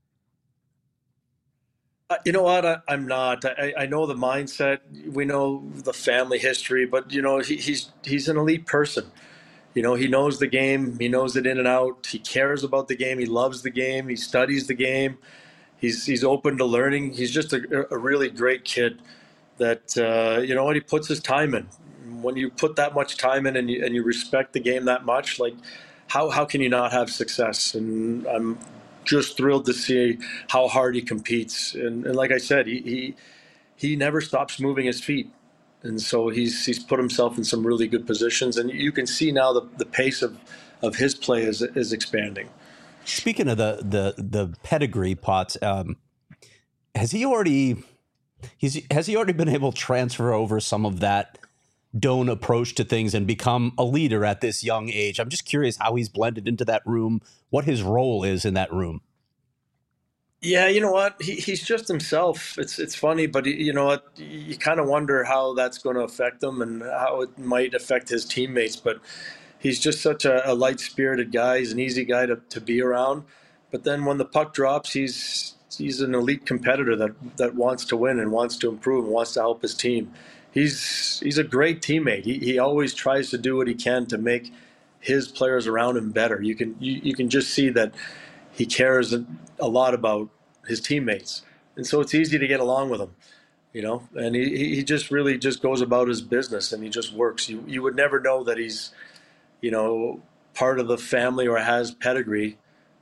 You know what? I'm not. I know the mindset. We know the family history, but you know he's an elite person. You know, he knows the game. He knows it in and out. He cares about the game. He loves the game. He studies the game. He's open to learning. He's just a really great kid that, you know what, he puts his time in. When you put that much time in and you respect the game that much, like how can you not have success? And I'm just thrilled to see how hard he competes. And like I said, he never stops moving his feet. And so he's put himself in some really good positions. And you can see now the pace of his play is expanding. Speaking of the pedigree, Potts, has he already been able to transfer over some of that Doan approach to things and become a leader at this young age? I'm just curious how he's blended into that room, what his role is in that room. Yeah, you know what? He's just himself. It's funny, but you know what? You kind of wonder how that's going to affect him and how it might affect his teammates, but he's just such a light-spirited guy. He's an easy guy to be around. But then when the puck drops, he's an elite competitor that wants to win and wants to improve and wants to help his team. He's a great teammate. He always tries to do what he can to make his players around him better. You can just see that he cares a lot about his teammates. And so it's easy to get along with him. You know, and he just really just goes about his business and he just works. You would never know that he's, you know, part of the family or has pedigree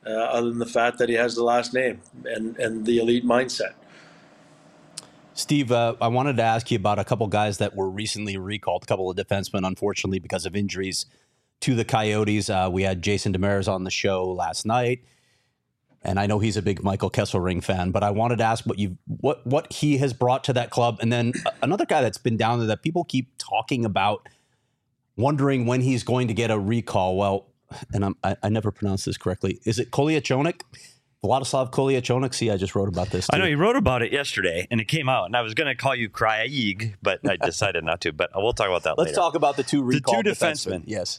other than the fact that he has the last name and the elite mindset. Steve, I wanted to ask you about a couple guys that were recently recalled, a couple of defensemen, unfortunately, because of injuries to the Coyotes. We had Jason Demers on the show last night, and I know he's a big Michael Kesselring fan, but I wanted to ask what he has brought to that club. And then another guy that's been down there that people keep talking about, wondering when he's going to get a recall. Well, and I never pronounced this correctly. Is it Kolyachonok? Vladislav Kolyachonok. See, I just wrote about this too. I know you wrote about it yesterday, and it came out, and I was going to call you Craig, but I decided not to. But we'll talk about that later. Let's talk about the two recalled defensemen. Yes.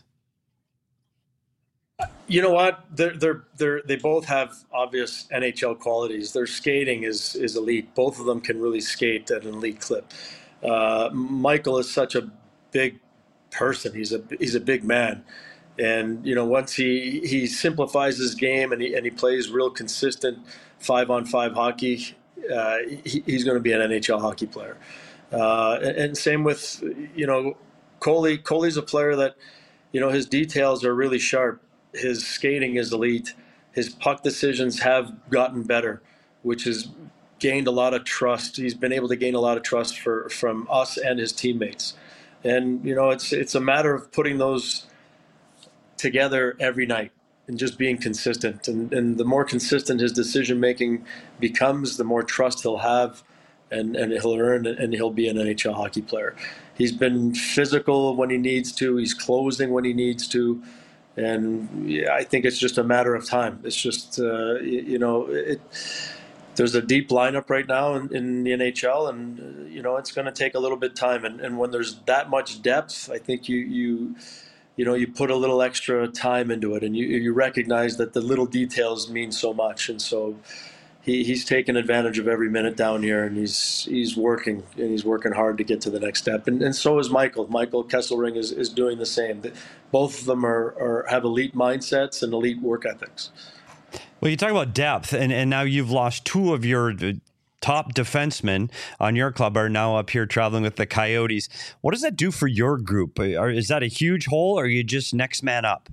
You know what? They both have obvious NHL qualities. Their skating is elite. Both of them can really skate at an elite clip. Michael is such a big person. He's a big man. And, you know, once he simplifies his game and he plays real consistent 5-on-5 hockey, he's going to be an NHL hockey player. And same with, you know, Coley's a player that, you know, his details are really sharp. His skating is elite. His puck decisions have gotten better, which has gained a lot of trust. He's been able to gain a lot of trust from us and his teammates. And, you know, it's a matter of putting those together every night and just being consistent. And the more consistent his decision making becomes, the more trust he'll have and he'll earn, and he'll be an NHL hockey player. He's been physical when he needs to. He's closing when he needs to. And yeah, I think it's just a matter of time. It's just, you know, there's a deep lineup right now in the NHL, and, you know, it's going to take a little bit of time. And when there's that much depth, I think you put a little extra time into it, and you recognize that the little details mean so much. And so he's taken advantage of every minute down here, and he's working, and he's working hard to get to the next step. And so is Michael. Michael Kesselring is doing the same. Both of them have elite mindsets and elite work ethics. Well, you talk about depth, and now you've lost two of your top defensemen on your club are now up here traveling with the Coyotes. What does that do for your group? Is that a huge hole, or are you just next man up?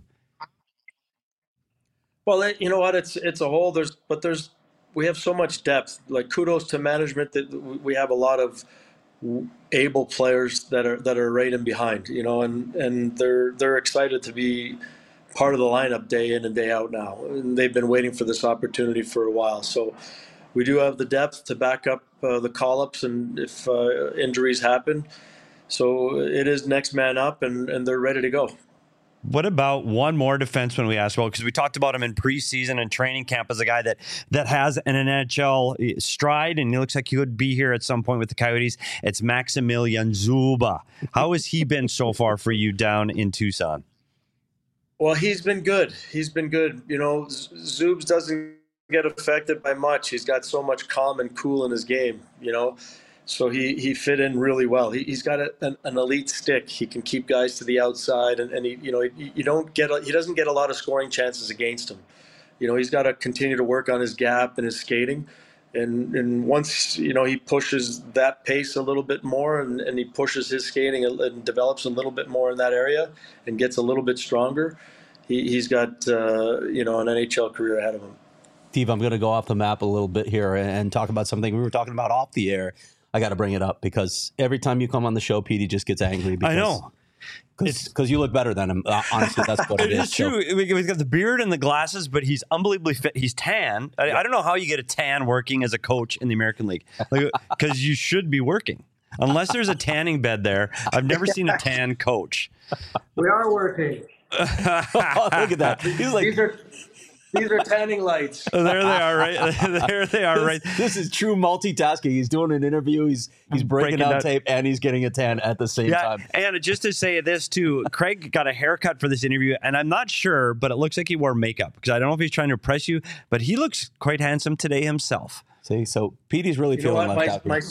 Well, you know what? It's a hole. We have so much depth. Like, kudos to management that we have a lot of able players that are right in behind. You know, and they're excited to be part of the lineup day in and day out now, and they've been waiting for this opportunity for a while. So we do have the depth to back up the call-ups, and if injuries happen. So it is next man up, and they're ready to go. What about one more defenseman we asked about? Because we talked about him in preseason and training camp as a guy that has an NHL stride, and he looks like he could be here at some point with the Coyotes. It's Maximilian Zuba. How has he been so far for you down in Tucson? Well, he's been good. You know, Zubs doesn't get affected by much. He's got so much calm and cool in his game, you know. So he fit in really well. He's got an elite stick. He can keep guys to the outside, and he doesn't get a lot of scoring chances against him. You know, he's got to continue to work on his gap and his skating. And once, you know, he pushes that pace a little bit more, and he pushes his skating and develops a little bit more in that area and gets a little bit stronger, he's got an NHL career ahead of him. Steve, I'm going to go off the map a little bit here and talk about something we were talking about off the air. I got to bring it up because every time you come on the show, Petey just gets angry. Because, I know. Because you look better than him. Honestly, that's what it is. It's true. He's got the beard and the glasses, but he's unbelievably fit. He's tan. I don't know how you get a tan working as a coach in the American League, because you should be working. Unless there's a tanning bed there. I've never seen a tan coach. We are working. Oh, look at that. He's like... These are tanning lights. Oh, there they are, right? There they are, right? This is true multitasking. He's doing an interview. He's breaking down tape, and he's getting a tan at the same time. And just to say this, too, Craig got a haircut for this interview, and I'm not sure, but it looks like he wore makeup, because I don't know if he's trying to impress you, but he looks quite handsome today himself. See, so Petey's really feeling left out.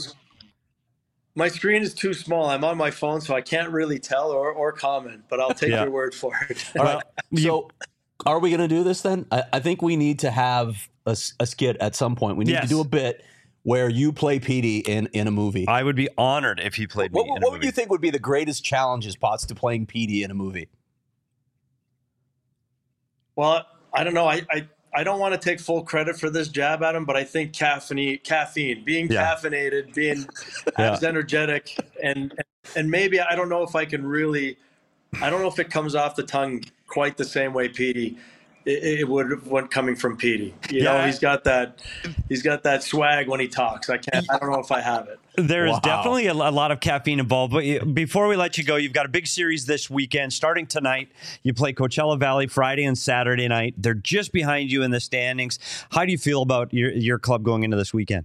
My screen is too small. I'm on my phone, so I can't really tell or comment, but I'll take your word for it. All right. So... Are we going to do this then? I think we need to have a skit at some point. We need to do a bit where you play Petey in a movie. I would be honored if you played me in a movie. What would you think would be the greatest challenges, Potts, to playing Petey in a movie? Well, I don't know. I don't want to take full credit for this jab at him, but I think caffeine, being caffeinated, being as energetic, and maybe I don't know if it comes off the tongue quite the same way Petey. It would when coming from Petey. You know, he's got that swag when he talks. I don't know if I have it. There is definitely a lot of caffeine involved. But before we let you go, you've got a big series this weekend. Starting tonight, you play Coachella Valley Friday and Saturday night. They're just behind you in the standings. How do you feel about your club going into this weekend?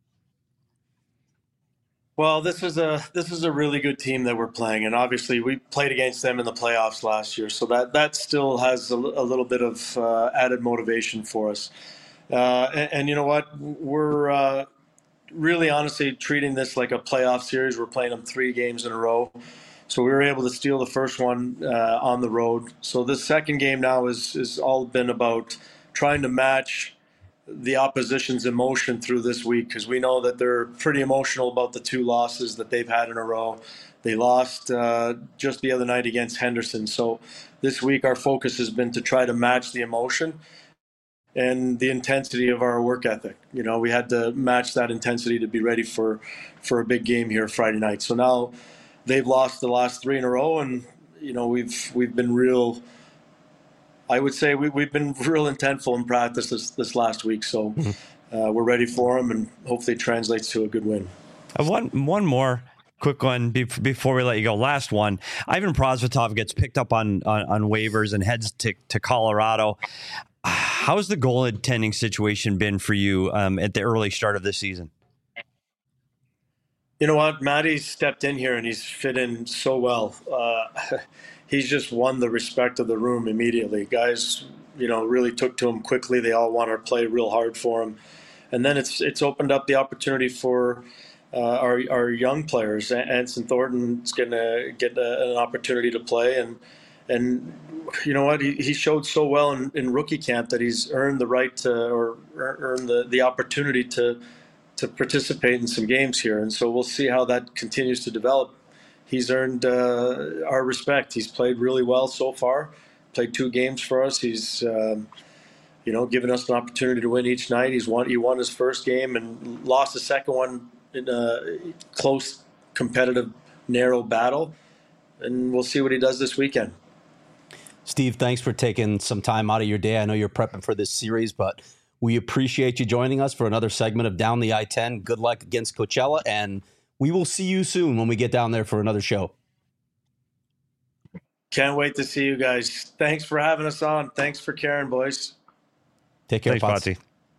Well, this is a really good team that we're playing, and obviously we played against them in the playoffs last year, so that still has a little bit of added motivation for us. And you know what? We're really honestly treating this like a playoff series. We're playing them 3 games in a row, so we were able to steal the first one on the road. So this second game now is all been about trying to match the opposition's emotion through this week, because we know that they're pretty emotional about the 2 losses that they've had in a row. They lost just the other night against Henderson. So this week our focus has been to try to match the emotion and the intensity of our work ethic. You know, we had to match that intensity to be ready for a big game here Friday night. So now they've lost the last 3 in a row, and you know we've been real. I would say we've been real intentful in practice this last week, so we're ready for them, and hopefully it translates to a good win. One more quick one before we let you go. Last one. Ivan Prosvetov gets picked up on waivers and heads to Colorado. How's the goaltending situation been for you at the early start of this season? You know what? Matty's stepped in here and he's fit in so well. He's just won the respect of the room immediately. Guys, you know, really took to him quickly. They all want to play real hard for him. And then it's opened up the opportunity for our young players. Anson Thornton's going to get an opportunity to play. And you know what? He showed so well in rookie camp that he's earned the right to, or earned the opportunity to participate in some games here. And so we'll see how that continues to develop. He's earned our respect. He's played really well so far. Played 2 games for us. He's, given us an opportunity to win each night. He won his first game and lost the second one in a close, competitive, narrow battle. And we'll see what he does this weekend. Steve, thanks for taking some time out of your day. I know you're prepping for this series, but we appreciate you joining us for another segment of Down the I-10. Good luck against Coachella, and we will see you soon when we get down there for another show. Can't wait to see you guys. Thanks for having us on. Thanks for caring, boys. Take care, Potsy.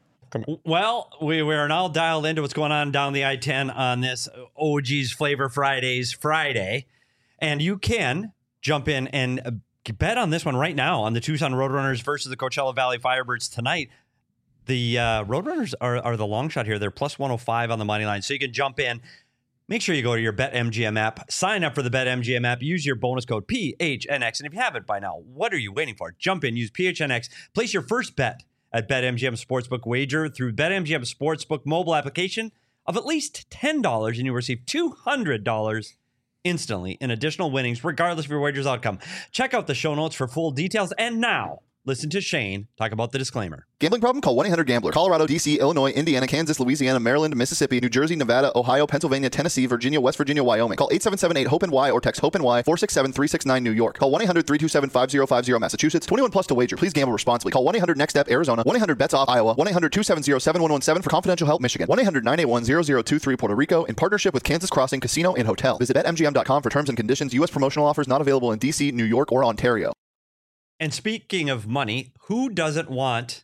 Well, we are now dialed into what's going on down the I-10 on this OG's Flavor Fridays Friday. And you can jump in and bet on this one right now on the Tucson Roadrunners versus the Coachella Valley Firebirds tonight. The Roadrunners are the long shot here. They're plus 105 on the money line. So you can jump in. Make sure you go to your BetMGM app. Sign up for the BetMGM app. Use your bonus code PHNX. And if you haven't by now, what are you waiting for? Jump in. Use PHNX. Place your first bet at BetMGM Sportsbook wager through BetMGM Sportsbook mobile application of at least $10, and you'll receive $200 instantly in additional winnings, regardless of your wager's outcome. Check out the show notes for full details. And now, listen to Shane talk about the disclaimer. Gambling problem? Call 1-800-GAMBLER. Colorado, D.C., Illinois, Indiana, Kansas, Louisiana, Maryland, Mississippi, New Jersey, Nevada, Ohio, Pennsylvania, Tennessee, Virginia, West Virginia, Wyoming. Call 877-8-HOPE-NY or text HOPE-NY 467-369 New York. Call 1-800-327-5050 Massachusetts. 21 plus to wager. Please gamble responsibly. Call 1-800-NEXT-STEP Arizona. 1-800-BETS-OFF Iowa. 1-800-270-7117 for confidential help Michigan. 1-800-981-0023 Puerto Rico in partnership with Kansas Crossing Casino and Hotel. Visit BetMGM.com for terms and conditions. U.S. promotional offers not available in D.C., New York, or Ontario. And speaking of money, who doesn't want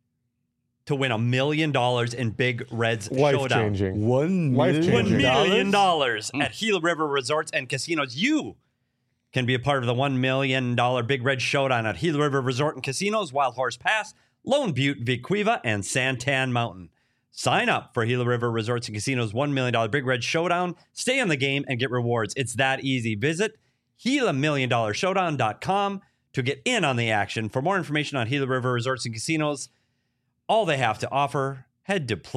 to win $1 million in Big Red's Showdown? Life-changing. $1 million at Gila River Resorts and Casinos. You can be a part of the $1 million Big Red Showdown at Gila River Resort and Casinos, Wild Horse Pass, Lone Butte, Vequiva, and Santan Mountain. Sign up for Gila River Resorts and Casinos $1 million Big Red Showdown. Stay in the game and get rewards. It's that easy. Visit GilaMillionShowdown.com to get in on the action. For more information on Gila River Resorts and Casinos, all they have to offer, head to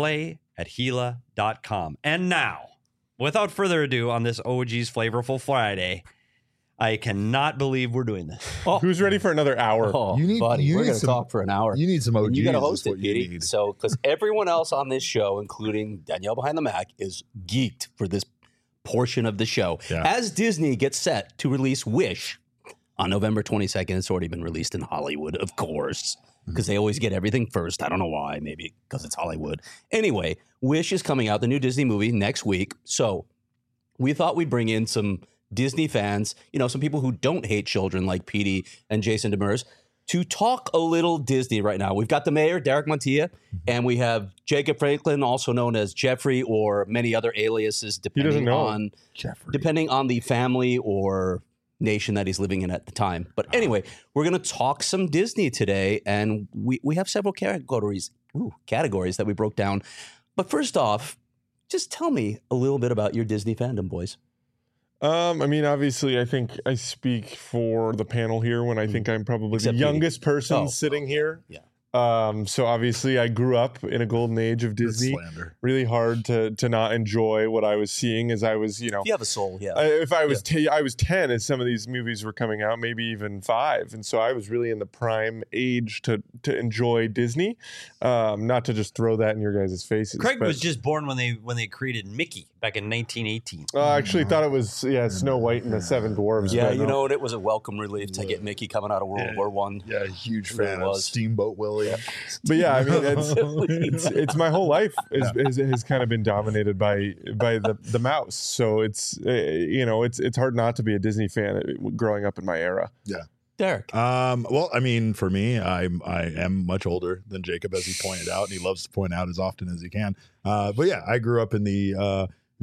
play@Gila.com. And now, without further ado, on this OG's Flavorful Friday, I cannot believe we're doing this. Who's ready for another hour? Oh, You need- buddy, you we're need going to some- talk for an hour. You need some OGs. And you got to is host it, what you Petey. need. So, because everyone else on this show, including Danielle behind the Mac, is geeked for this portion of the show. Yeah. As Disney gets set to release Wish on November 22nd, it's already been released in Hollywood, of course, because they always get everything first. I don't know why. Maybe because it's Hollywood. Anyway, Wish is coming out, the new Disney movie, next week. So we thought we'd bring in some Disney fans, some people who don't hate children like Petey and Jason Demers, to talk a little Disney right now. We've got the mayor, Derek Montilla, and we have Jacob Franklin, also known as Jeffrey, or many other aliases, depending on the family or nation that he's living in at the time. But anyway, we're going to talk some Disney today, and we have several categories that we broke down. But first off, just tell me a little bit about your Disney fandom, boys. Obviously, I think I speak for the panel here when I think I'm probably Except the youngest person Oh. sitting here. Yeah. So obviously, I grew up in a golden age of Disney. Slander. Really hard to not enjoy what I was seeing as I was, If you have a soul, yeah. if I was I was 10 as some of these movies were coming out, maybe even 5, and so I was really in the prime age to enjoy Disney. Not to just throw that in your guys' faces. Craig but, was just born when they created Mickey back in 1918. I actually thought it was Snow White and the Seven Dwarves. Yeah, but it was a welcome relief to get Mickey coming out of World War One. Yeah, huge Really fan of was. Steamboat Willie. But yeah, I mean, it's my whole life has kind of been dominated by the mouse. So it's hard not to be a Disney fan growing up in my era. Yeah. Derek. Well, I mean, for me, I am much older than Jacob, as he pointed out, and he loves to point out as often as he can. But yeah, I grew up in the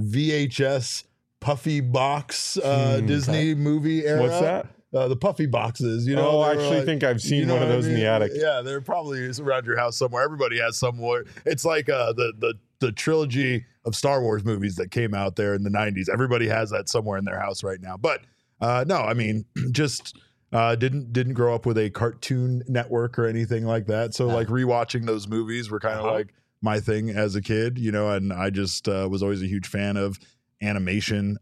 VHS puffy box Disney movie era. What's that? The puffy boxes, Oh, I they were actually think I've seen one of those in the attic. Yeah, they're probably around your house somewhere. Everybody has somewhere. It's like the trilogy of Star Wars movies that came out there in the 90s. Everybody has that somewhere in their house right now. But no, I mean, just didn't grow up with a Cartoon Network or anything like that. So like rewatching those movies were kind of like my thing as a kid, and I just was always a huge fan of animation.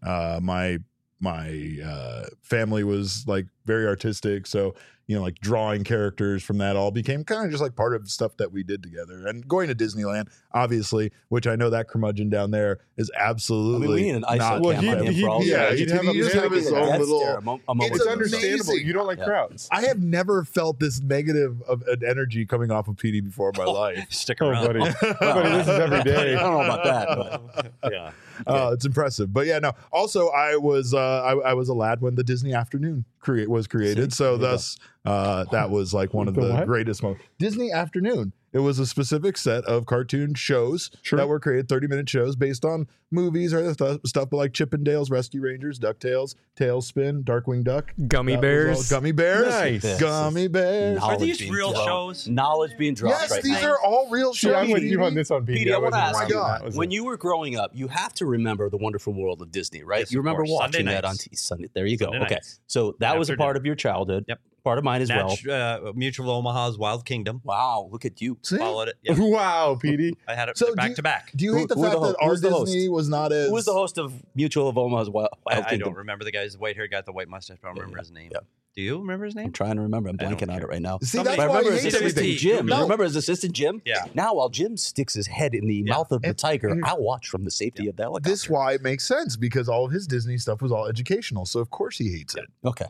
My family was like very artistic, so like drawing characters from that all became kind of just like part of stuff that we did together. And going to Disneyland, obviously, which I know that curmudgeon down there is absolutely we need an ISO not. cam on him for all yeah, this. he'd have he just have his own That's little. there, a moment It's It's ago. understandable. amazing. You don't like Yeah. crowds. I have never felt this negative of an energy coming off of PD before in my life. Stick Oh, around. buddy. Buddy, this is every day. I don't know about that, but yeah. It's impressive. But yeah, no. Also, I was I was a lad when the Disney Afternoon was created. See? So There you thus that was like one of The the what? greatest moments. Disney Afternoon. It was a specific set of cartoon shows Sure. that were created, 30-minute shows based on movies or stuff like Chippendales, Rescue Rangers, DuckTales, Tailspin, Darkwing Duck. Gummy That was bears. all- Gummy Bears. Nice. Gummy Bears. Knowledge these being real dropped. shows? Knowledge being dropped Yes, right these now. are all real See, shows. I'm with you PD. on this one, PD. Petey, I want to wasn't ask wrong you, on that, was when it? you were growing up, you have to remember the Wonderful World of Disney, right? Yes, you of remember course. watching Sunday that on nights. Sunday. There you go. Sunday Okay, nights. so that was a After part dinner. of your childhood. Yep. Part of mine as well. Mutual of Omaha's Wild Kingdom. Wow, look at you. See? Followed it. Yeah. Wow, PD. I had it So back to back. Do you hate the Who- who fact the that ho- our who's the host? Disney was not as... Who was the host of Mutual of Omaha's Wild I Kingdom? don't remember the guy's white hair guy with the white mustache. I don't remember his name. Yeah. Do you remember his name? I'm trying to remember. I'm I don't blanking on care. it right now. See, Somebody- that's But I why remember he his hates assistant everything. Jim. No. Remember his assistant Jim? Yeah. Now, while Jim sticks his head in the Yeah. mouth of the And- tiger, and- I'll watch from the safety of the helicopter. This why it makes sense, because all of his Disney stuff was all educational. So of course he hates it. Okay.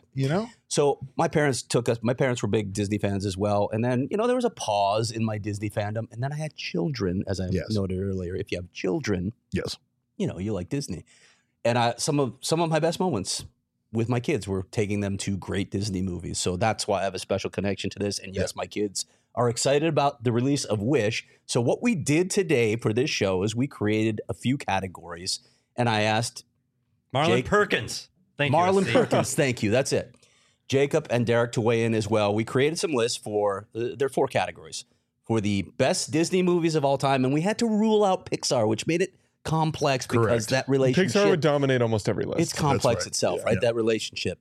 So my parents took us. My parents were big Disney fans as well. And then there was a pause in my Disney fandom. And then I had children, as I Yes. noted earlier. If you have children, Yes. you like Disney. And some of my best moments with my kids were taking them to great Disney movies. So that's why I have a special connection to this. And yes, my kids are excited about the release of Wish. So what we did today for this show is we created a few categories. And I asked Marlon Jake- Perkins. Thank you. Marlon Steve. Perkins, thank you. That's it. Jacob and Derek to weigh in as well. We created some lists for, there are 4 categories, for the best Disney movies of all time. And we had to rule out Pixar, which made it complex because Correct. that relationship. Pixar would dominate almost every list. It's complex right. itself, Yeah. right? Yeah. That relationship.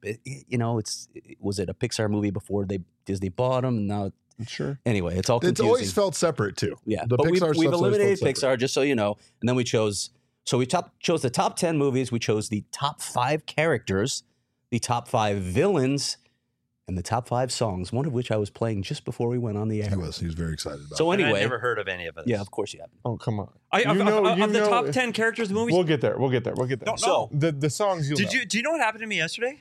Was it a Pixar movie before Disney bought them? Now, Sure. anyway, it's all It's confusing. always felt separate too. Yeah, The but we've Pixar stuff's always eliminated felt separate. Pixar, just so you know. And then we chose the top 10 movies. We chose the top 5 characters the top 5 villains and the top 5 songs, one of which I was playing just before we went on the air. He was very excited about. So anyway, I've never heard of any of it. Yeah, of course you haven't. Oh, come on. Of the top 10 characters in the movies, we'll get there. Don't So the songs you'll know. Do you know what happened to me yesterday?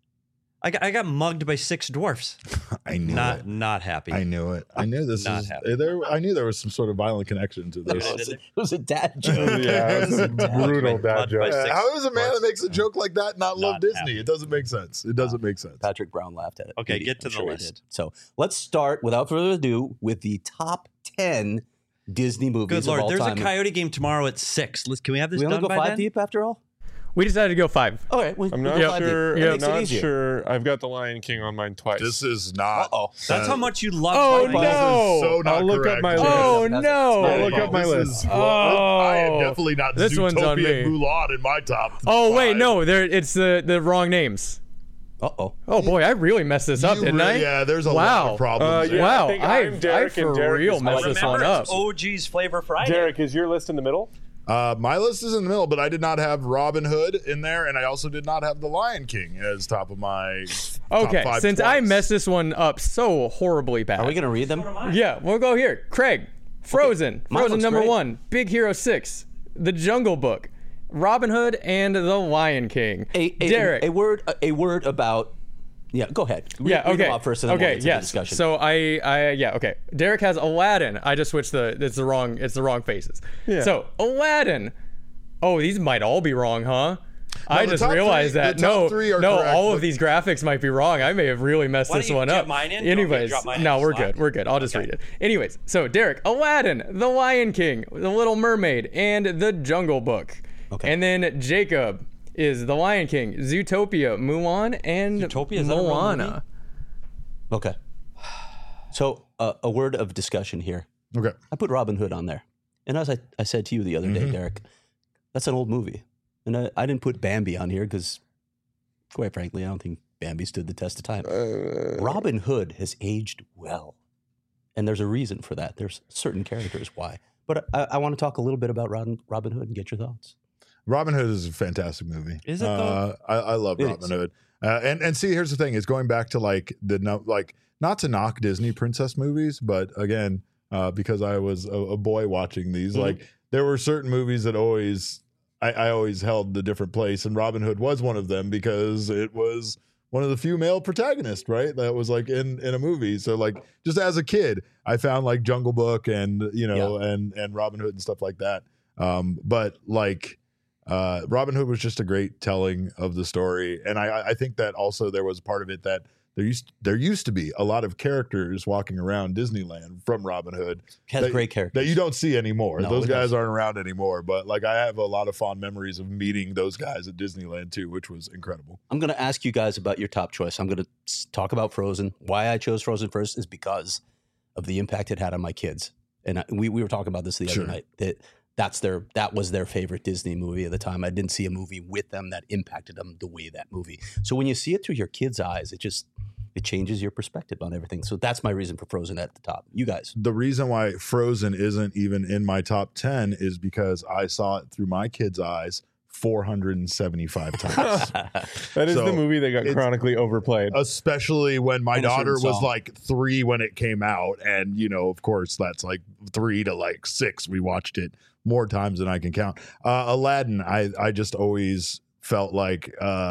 I got mugged by 6 dwarfs. I knew it. Not happy. I knew it. I knew this Not was happy. there. I knew there was some sort of violent connection to this. It was a dad joke. Yeah, it was a brutal dad joke. How does a man that makes a joke like that not love Disney? happy. It doesn't make sense. It doesn't make sense. Patrick Brown laughed at it. Okay, Maybe. get to I'm the sure he list. did. So let's start, without further ado, with the top 10 Disney movies Good of Lord. all There's time. a Coyote game tomorrow at 6. Can we have this We only done go by 5 then? deep after all? We decided to go 5. Okay, I'm we'll not go 5 deep. sure. That I'm makes it not easier. sure. I've got The Lion King on mine twice. This is not. Uh-oh. That's how much you love Oh, Lion King. no. So not I'll look correct. up my list. Oh, That's- no. I'll look up my This list. is- I am Oh. definitely not This one's on Zootopia me. and Mulan in my top. Oh, wait, 5. no. It's the wrong names. Uh-oh. Oh, boy, I really messed this up, You didn't I? Yeah, there's a lot Wow. of problems. Yeah, Wow, I think I I'm Derek for and Derek real is messed mine. this one Remember, up. it's OG's Flavor Friday. Derek, is your list in the middle? My list is in the middle, but I did not have Robin Hood in there, and I also did not have The Lion King as top of my Okay, top 5 since I twice. messed this one up so horribly bad. Are we going to read them? Yeah, we'll go here. Craig, Frozen. Mine Frozen looks number great. 1. Big Hero 6. The Jungle Book. Robin Hood and The Lion King. Derek. A word about... Yeah, go ahead. Read them Okay. off first, and then we'll get to the yes. discussion. So okay. Derek has Aladdin. I just switched it's the wrong faces. Yeah. So Aladdin. Oh, these might all be wrong, huh? I the just top realized three- that the top three are correct, all but- of these graphics might be wrong. I may have really messed Why this don't you one get up. mine in? Do you want me to Anyways, drop mine no, in we're Slack? good. We're good. I'll just read it. Anyways, so Derek, Aladdin, The Lion King, The Little Mermaid, and The Jungle Book. Okay. And then Jacob is The Lion King, Zootopia, Mulan, and Zootopia, is that a real Moana. movie? Okay. So a word of discussion here. Okay. I put Robin Hood on there. And as I said to you the other day, Derek, that's an old movie. And I didn't put Bambi on here because, quite frankly, I don't think Bambi stood the test of time. Robin Hood has aged well. And there's a reason for that. There's certain characters why. But I want to talk a little bit about Robin Hood and get your thoughts. Robin Hood is a fantastic movie. Is it, though? I love It Robin is. Hood. And see, here's the thing: it's going back to not to knock Disney princess movies, but again, because I was a boy watching these, like there were certain movies that I always held a different place, and Robin Hood was one of them because it was one of the few male protagonists, right? That was like in a movie. So like just as a kid, I found like Jungle Book and and Robin Hood and stuff like that. But like Robin Hood was just a great telling of the story, and I think that also there was part of it that there used to be a lot of characters walking around Disneyland from Robin Hood Has great characters. that you don't see anymore. No, Those it guys doesn't. aren't around anymore. But like I have a lot of fond memories of meeting those guys at Disneyland too, which was incredible. I'm going to ask you guys about your top choice. I'm going to talk about Frozen. Why I chose Frozen first is because of the impact it had on my kids. And we were talking about this the Sure. other night. That was their favorite Disney movie at the time. I didn't see a movie with them that impacted them the way that movie. So when you see it through your kids' eyes, it changes your perspective on everything. So that's my reason for Frozen at the top. You guys. The reason why Frozen isn't even in my top 10 is because I saw it through my kids' eyes 475 times. That is So, the movie that got it's- chronically overplayed. Especially when my And a certain daughter was song. like 3 when it came out. And, of course, that's like 3 to like 6. We watched it more times than I can count. Aladdin, I just always felt like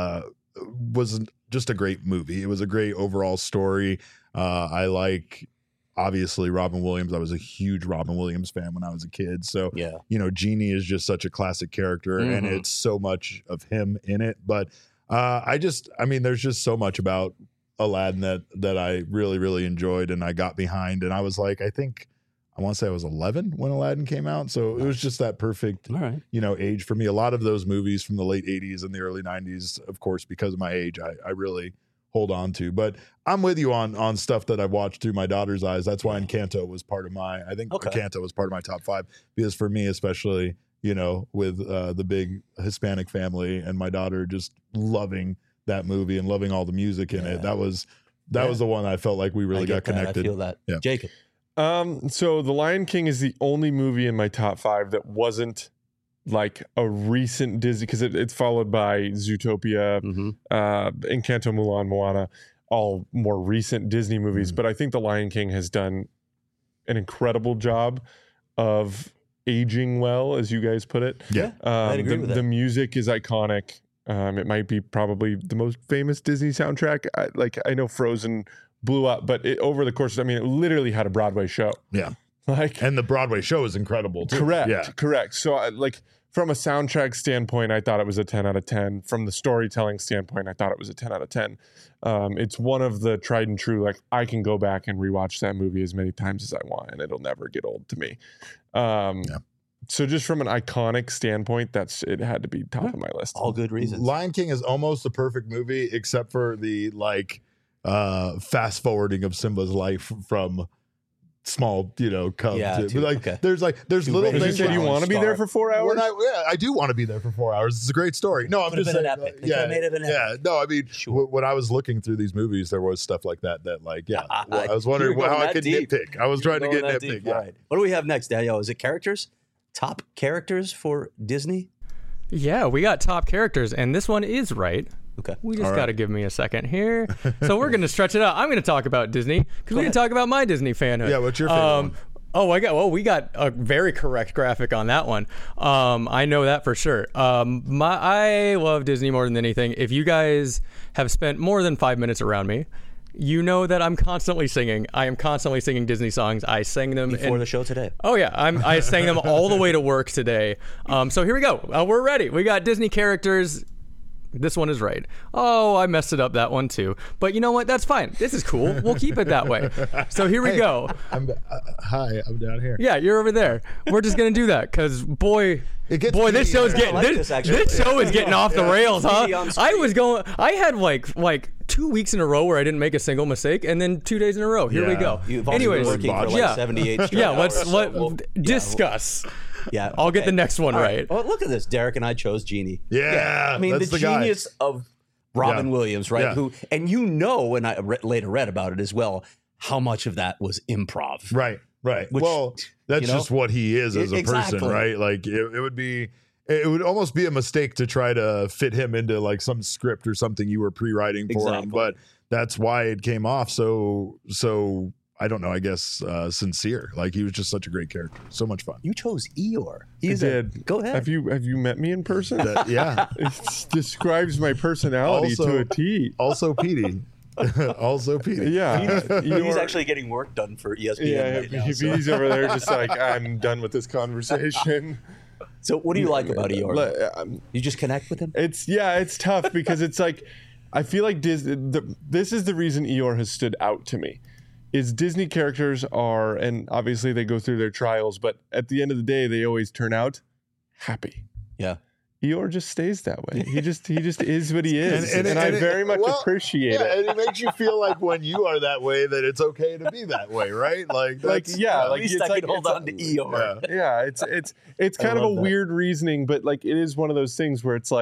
was just a great movie. It was a great overall story. I like, obviously, Robin Williams. I was a huge Robin Williams fan when I was a kid. So, Yeah. Genie is just such a classic character and Mhm. it's so much of him in it. But there's just so much about Aladdin that I really, really enjoyed and I got behind. And I was like, I want to say I was 11 when Aladdin came out. So it was just that perfect, All right. age for me. A lot of those movies from the late 80s and the early 90s, of course, because of my age, I really hold on to. But I'm with you on stuff that I've watched through my daughter's eyes. That's why Encanto was part of Encanto was part of my top 5 because for me, especially, with the big Hispanic family and my daughter just loving that movie and loving all the music in it. That was the one I felt like we really I got get that. connected. I feel that. Yeah. Jacob. So The Lion King is the only movie in my top 5 that wasn't like a recent Disney, because it's followed by Zootopia, Encanto, Mulan, Moana, all more recent Disney movies. But I think The Lion King has done an incredible job of aging well, as you guys put it. Yeah, I'd agree with that. The music is iconic. It might be probably the most famous Disney soundtrack. I know Frozen blew up, but over the course, it literally had a Broadway show. Yeah. And the Broadway show is incredible too. Correct. So from a soundtrack standpoint, I thought it was a 10 out of 10. From the storytelling standpoint, I thought it was a 10 out of 10. It's one of the tried and true, I can go back and rewatch that movie as many times as I want, and it'll never get old to me. So just from an iconic standpoint, it had to be top of my list. All good reasons. Lion King is almost the perfect movie, except for the fast forwarding of Simba's life from small, cub. There's little things. You want to be there for 4 hours? I do want to be there for 4 hours. It's a great story. No, I'm just saying. No, I mean, when I was looking through these movies, there was stuff like that. I was wondering how I could nitpick. I was trying to get nitpick. Yeah. Right. What do we have next, Daniel? Is it characters? Top characters for Disney? Yeah, we got top characters, and this one is right. Okay. We just got to give me a second here. So we're going to stretch it out. I'm going to talk about Disney because we can talk about my Disney fanhood. Yeah, what's your favorite one? We got a very correct graphic on that one. I know that for sure. I love Disney more than anything. If you guys have spent more than 5 minutes around me, you know that I'm constantly singing. I am constantly singing Disney songs. I sang them before the show today. Oh yeah, I sang them all the way to work today. So here we go. We're ready. We got Disney characters. This one is right. Oh, I messed it up that one too. But you know what? That's fine. This is cool. We'll keep it that way. So here we go. Hi, I'm down here. Yeah, you're over there. We're just gonna do that because this show is getting this show is getting off the rails, huh? I had like 2 weeks in a row where I didn't make a single mistake, and then 2 days in a row. Here we go. Anyways, working for 78 straight hours. Let's discuss. Yeah, I'll get the next one right. Oh, look at this. Derek and I chose Genie. Yeah. I mean, the genius of Robin Williams, right? Yeah. And I later read about it as well, how much of that was improv. Right. Well, that's just what he is as a person, right? It would almost be a mistake to try to fit him into some script or something you were pre-writing for him, but that's why it came off so I don't know, I guess sincere. He was just such a great character. So much fun. You chose Eeyore. Go ahead. Have you met me in person? Yeah. It describes my personality to a T. Also Petey. Yeah. He's actually getting work done for ESPN right now. He's over there just I'm done with this conversation. So what do you like about Eeyore? You just connect with him? It's tough because it's I feel like this is the reason Eeyore has stood out to me. Is Disney characters are, and obviously they go through their trials, but at the end of the day, they always turn out happy. Yeah. Eeyore just stays that way. He just is what he is, and I very much appreciate it. And it makes you feel like when you are that way, that it's okay to be that way, right? At least I can hold on to Eeyore. Yeah, it's kind of a weird reasoning, but it is one of those things where it's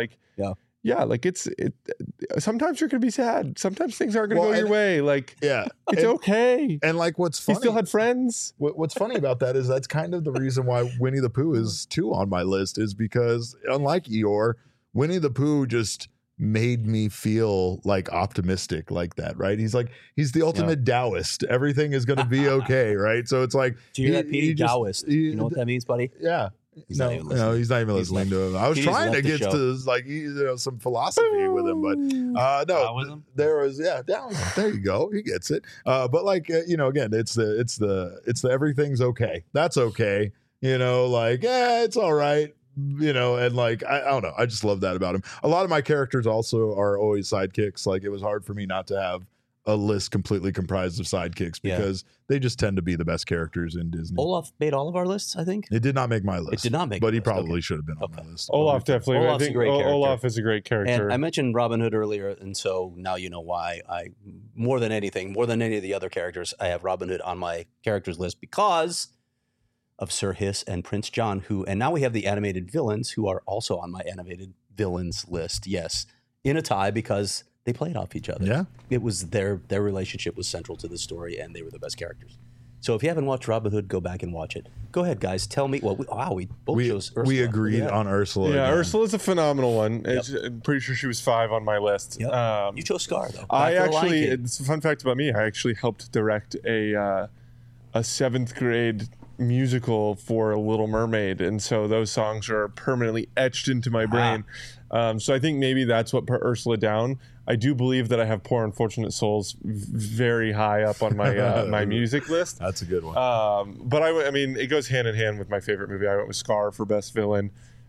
sometimes you're gonna be sad. Sometimes things aren't gonna go your way. It's okay. And what's funny, he still had friends. What's funny about that is that's kind of the reason why Winnie the Pooh is 2 on my list, is because unlike Eeyore, Winnie the Pooh just made me feel optimistic like that, right? He's the ultimate Taoist. Everything is gonna be okay, right? So it's do you hear that, Petey? Taoist. You know what that means, buddy? Yeah. He's not even listening to him. I was trying to get to some philosophy with him, but no, there was Taoism. There you go. He gets it. But again, it's the everything's okay. That's okay. It's all right. And I don't know. I just love that about him. A lot of my characters also are always sidekicks. It was hard for me not to have a list completely comprised of sidekicks because they just tend to be the best characters in Disney. Olaf made all of our lists, I think. It did not make my list. It did not make but he probably should have been on my list. Olaf definitely. Olaf's a great character. Olaf is a great character. And I mentioned Robin Hood earlier, and so now you know why more than any of the other characters, I have Robin Hood on my characters list because of Sir Hiss and Prince John, and now we have the animated villains who are also on my animated villains list. Yes, in a tie because they played off each other. Yeah. It was their relationship was central to the story, and they were the best characters. So if you haven't watched Robin Hood, go back and watch it. Go ahead, guys. Tell me. Well, we both chose Ursula. We agreed on Ursula. Yeah, again. Ursula's a phenomenal one. I'm pretty sure she was 5 on my list. Yep. You chose Scar, though. It's a fun fact about me. I actually helped direct a 7th grade musical for Little Mermaid, and so those songs are permanently etched into my brain. So I think maybe that's what put Ursula down. I do believe that I have Poor Unfortunate Souls very high up on my my music list. That's a good one. But I mean, it goes hand in hand with my favorite movie. I went with Scar for best villain.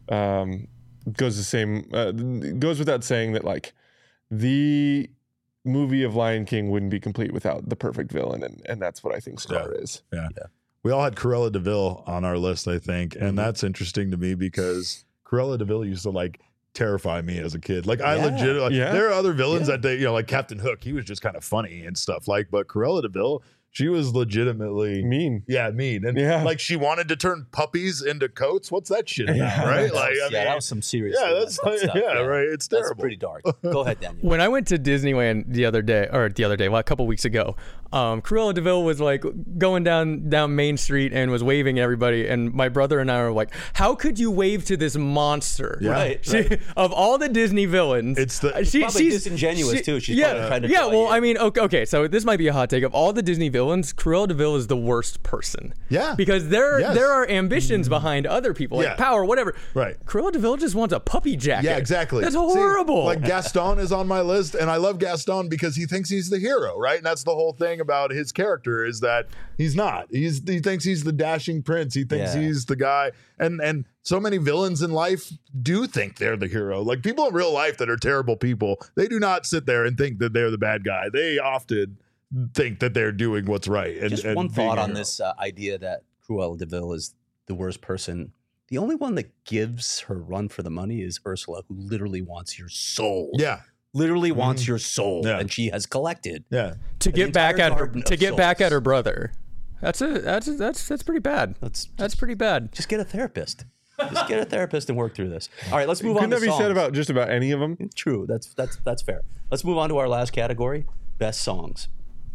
Goes without saying that like the movie of Lion King wouldn't be complete without the perfect villain, and that's what I think Scar is. Yeah. We all had Cruella de Vil on our list, I think, and that's interesting to me because Cruella de Vil used to like terrify me as a kid. Like I legitimately, there are other villains that they, like Captain Hook, he was just kind of funny and stuff. Like, but Cruella de Vil, she was legitimately mean. Yeah, mean. And like she wanted to turn puppies into coats. What's that shit about, right? Like, I mean, that was some serious. That's stuff. Right. It's terrible. That's pretty dark. Go ahead, Daniel. When I went to Disneyland the other day, a couple weeks ago, Cruella de Vil was like going down Main Street and was waving at everybody, and my brother and I were like, "How could you wave to this monster?" Yeah. Right. Of all the Disney villains, she's probably disingenuous too. She's trying to well, I mean, okay, so this might be a hot take. Of all the Disney villains, Cruella de Vil is the worst person. Yeah, because there are ambitions behind other people, like power, whatever. Right. Cruella de Vil just wants a puppy jacket. Yeah, exactly. That's horrible. See, like Gaston is on my list, and I love Gaston because he thinks he's the hero, right? And that's the whole thing about his character is that he's not. He thinks he's the dashing prince. He thinks he's the guy. And so many villains in life do think they're the hero. Like people in real life that are terrible people, they do not sit there and think that they're the bad guy. They often think that they're doing what's right. And, just one thought on this idea that Cruella de Vil is the worst person. The only one that gives her run for the money is Ursula, who literally wants your soul. Yeah. Literally wants your soul, and she has collected. To get back at her brother. That's pretty bad. That's pretty bad. Just get a therapist. Just get a therapist and work through this. All right, let's move on. Couldn't that be said about just about any of them? True. That's fair. Let's move on to our last category: best songs.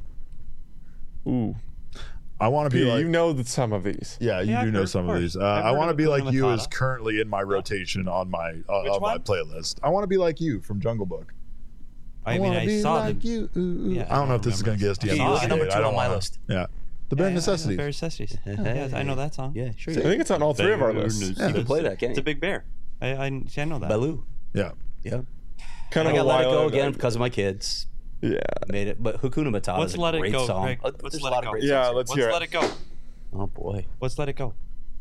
Ooh. I want to be like... You know some of these. Yeah, you do know some of these. I Want to Be Like You is currently in my rotation on my my playlist. I Want to Be Like You from Jungle Book. I mean, I saw like you. Yeah, I don't know if this is going to get us to number 2 on my list. Yeah. The Bare Necessities. Bare Necessities. Yes, I know that song. Yeah, sure. I think it's on all 3 of our lists. You can play that, can't you? It's a big bear. I know that. Baloo. Yeah. Kind of I got Let It Go again because of my kids. Yeah. Made it. But Hakuna Matata is a great song. Greg, let's let it go. Yeah, let's hear it. Let It Go. Oh, boy. Let's Let It Go.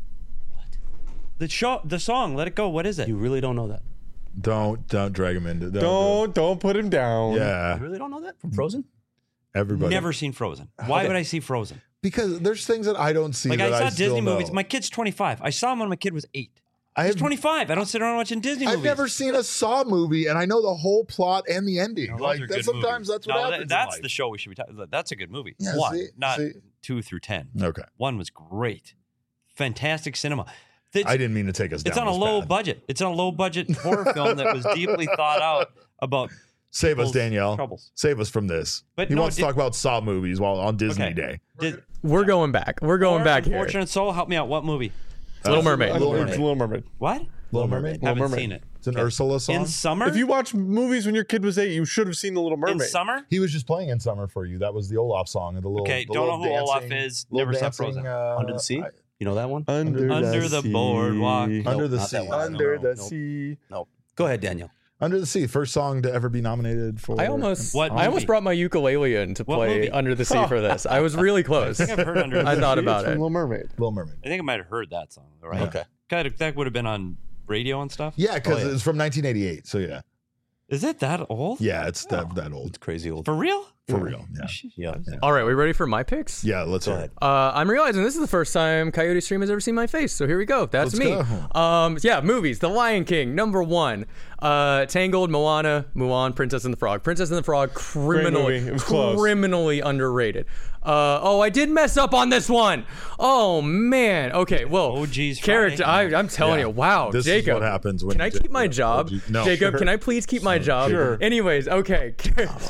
What? The song, Let It Go. What is it? You really don't know that? Don't drag him into it. Don't put him down. Yeah. You really don't know that from Frozen? Everybody. Never seen Frozen. Why would I see Frozen? Because there's things that I don't see. Like that I saw still Disney know. movies. My kid's 25. I saw him when my kid was 8. He's 25. I don't sit around watching Disney movies. I've never seen a Saw movie, and I know the whole plot and the ending. No, like sometimes that's what happens. That's the show we should be talking about. That's a good movie. Yeah, 1, not 2 through 10. Okay. 1 was great. Fantastic cinema. I didn't mean to take us down. It's on a low budget. It's on a low budget horror film that was deeply thought out about. Save us, Danielle. Troubles. Save us from this. But he wants to talk about Saw movies while on Disney Day. We're going back. We're going back here. Unfortunate Soul, help me out. What movie? Little Mermaid. Little Mermaid. What? Little Mermaid. Haven't seen it. It's an Ursula song. In summer? If you watch movies when your kid was 8, you should have seen The Little Mermaid. In summer? He was just playing In Summer for you. That was the Olaf song. The little, okay, the don't know little who dancing, Olaf is. Never saw Frozen. Under the Sea? You know that one? Under the boardwalk. Under the Sea. Under the Sea. No. Go ahead, Daniel. Under the Sea, first song to ever be nominated for. I almost movie? brought my ukulele in to play Under the Sea for this. I was really close. I think I've heard Under the Sea. I thought about it. Little Mermaid. Little Mermaid. I think I might have heard that song, right? Okay. That would have been on radio and stuff? Yeah, because it's from 1988. So yeah. Is it that old? Yeah, it's that old. It's crazy old. For real? For real. Yeah. All right, we ready for my picks? Yeah, let's go ahead. I'm realizing this is the first time Coyote Stream has ever seen my face, so here we go. That's me. Yeah, movies. The Lion King, number 1. Tangled, Moana, Mulan, Princess and the Frog. Princess and the Frog, criminally underrated. I did mess up on this one. Oh man. Okay. Well, OG's character. I'm telling you. Wow, this Jacob. Is what happens when can I keep my job? No. Jacob, can I please keep my job? Sure. Anyways, okay. Don't allow it, Jacob.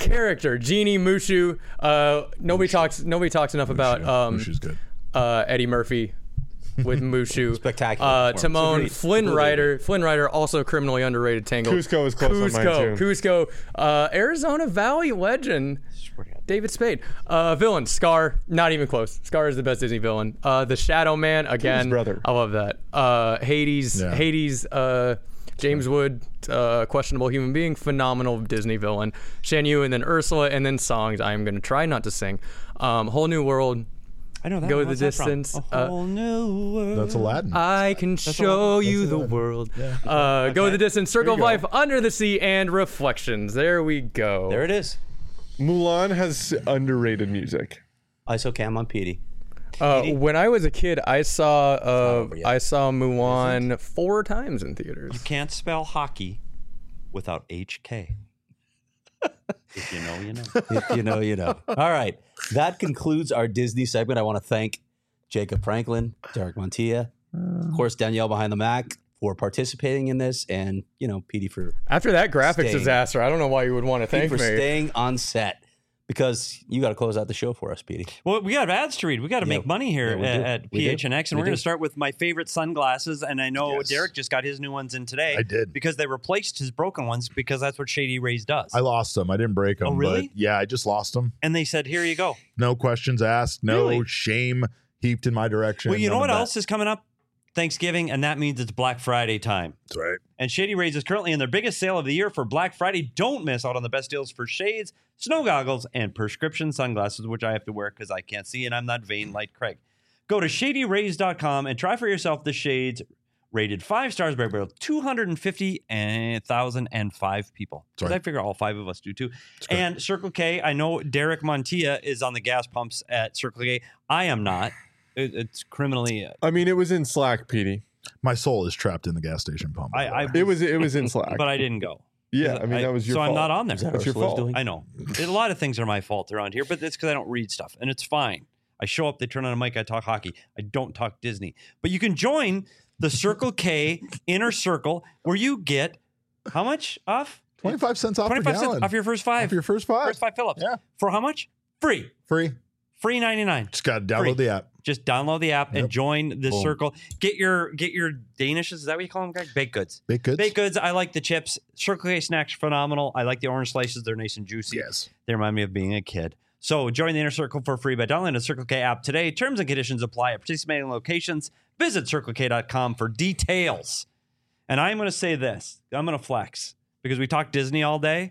character, Genie Mushu. Nobody talks enough about Mushu's good. Eddie Murphy with Mushu. Spectacular. Timon, Flynn Rider, also criminally underrated. Tangled. Cusco is close on mine too. Cusco. Arizona Valley legend. David Spade. Villain, Scar, not even close. Scar is the best Disney villain. The Shadow Man, again. His brother. I love that. Hades, James Wood, questionable human being, phenomenal Disney villain. Shan Yu, and then Ursula, and then songs. I am going to try not to sing. Whole New World. I know that. Go the distance. A whole new world. That's Aladdin. I can show you the world. Yeah. Go the distance. Circle of Life, Under the Sea, and Reflections. There we go. There it is. Mulan has underrated music. ISOCAM on Petey. When I was a kid, I saw Mulan 4 times in theaters. You can't spell hockey without HK. If you know, you know. If you know, you know. All right. That concludes our Disney segment. I want to thank Jacob Franklin, Derek Montilla, of course, Danielle behind the Mac for participating in this, and, Petey for after that graphics disaster, I don't know why you would want to thank me. For staying on set. Because you got to close out the show for us, Petey. Well, we got ads to read. We got to make money here at PHNX, and we're going to start with my favorite sunglasses. And I know Derek just got his new ones in today. I did. Because they replaced his broken ones, because that's what Shady Rays does. I lost them. I didn't break them. Oh, really? But I just lost them. And they said, here you go. No questions asked. No shame heaped in my direction. Well, you know what else is coming up? Thanksgiving, and that means it's Black Friday time. That's right. And Shady Rays is currently in their biggest sale of the year for Black Friday. Don't miss out on the best deals for shades, snow goggles, and prescription sunglasses, which I have to wear because I can't see and I'm not vain like Craig. Go to shadyrays.com and try for yourself the shades rated 5 stars by about 250,005 people. Because I figure all 5 of us do too. And Circle K, I know Derek Montilla is on the gas pumps at Circle K. I am not. It's criminally. I mean, it was in Slack, Petey. My soul is trapped in the gas station pump. It was in Slack, but I didn't go. Yeah, I mean that was your fault. So I'm not on there. That's your fault. I know. A lot of things are my fault around here, but it's because I don't read stuff, and it's fine. I show up, they turn on a mic, I talk hockey. I don't talk Disney. But you can join the Circle K Inner Circle, where you get how much off? 25 cents off 25 cents off your first 5. Off your first 5. First 5 fill-ups. Yeah. For how much? Free. Free 99. Just got to download the app. Just download the app and join the circle. Get your Danishes. Is that what you call them, Greg? Baked goods. Baked goods. I like the chips. Circle K snacks phenomenal. I like the orange slices. They're nice and juicy. Yes. They remind me of being a kid. So join the Inner Circle for free by downloading the Circle K app today. Terms and conditions apply at participating locations. Visit CircleK.com for details. And I'm going to say this. I'm going to flex because we talked Disney all day.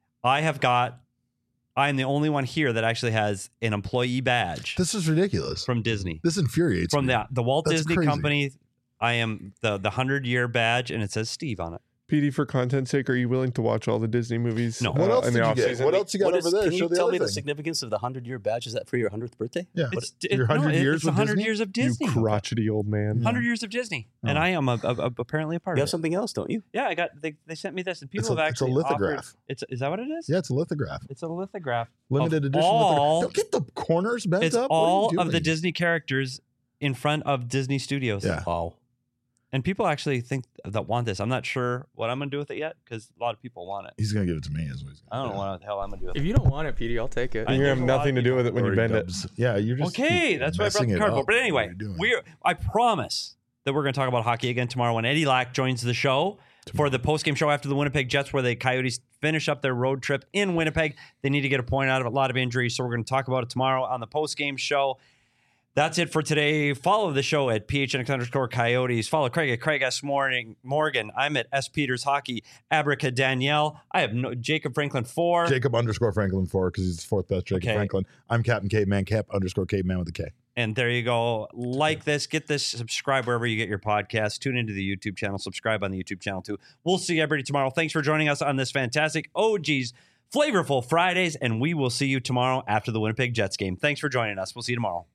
I'm the only one here that actually has an employee badge. This is ridiculous. From Disney. This infuriates me. From the Walt That's Disney crazy. Company. I am the 100-year badge, and it says Steve on it. Petey, for content's sake, are you willing to watch all the Disney movies? No. What else did you get? What else you got over there? Can Show you the tell other me the thing. significance of the 100-year badge? Is that for your 100th birthday? Yeah. Your 100 years it's with 100 Disney? years of Disney. You crotchety old man. 100 years of Disney. And I am apparently a part You of have it. something else, don't you? Yeah, I got. They sent me this, and people It's a have actually lithograph. offered. Is that what it is? Yeah, it's a lithograph. It's a lithograph. Limited of edition all, lithograph. Don't get the corners bent It's up. What are you all of the doing? Disney characters in front of Disney Studios. Yeah. Wow. And people actually think that want this. I'm not sure what I'm going to do with it yet because a lot of people want it. He's going to give it to me. Is what he's I don't know what the hell I'm going to do with it. If you don't want it, Petey, I'll take it. You're going to have nothing to do with it when you bend it. Yeah, you're just Okay, that's why I brought the cardboard. But anyway, I promise that we're going to talk about hockey again tomorrow when Eddie Lack joins the show for the postgame show after the Winnipeg Jets, where the Coyotes finish up their road trip in Winnipeg. They need to get a point out of a lot of injuries, so we're going to talk about it tomorrow on the postgame show. That's it for today. Follow the show at PHNX_Coyotes. Follow Craig at Craig S. Morgan. I'm at S. Peters Hockey. Abraca Danielle. I have Jacob Franklin 4. Jacob_Franklin 4 because he's the 4th best Jacob Franklin. I'm Captain Caveman, Cap_Caveman with a K. And there you go. Like this, get this, subscribe wherever you get your podcast. Tune into the YouTube channel. Subscribe on the YouTube channel too. We'll see everybody tomorrow. Thanks for joining us on this fantastic OG's Flavorful Fridays, and we will see you tomorrow after the Winnipeg Jets game. Thanks for joining us. We'll see you tomorrow.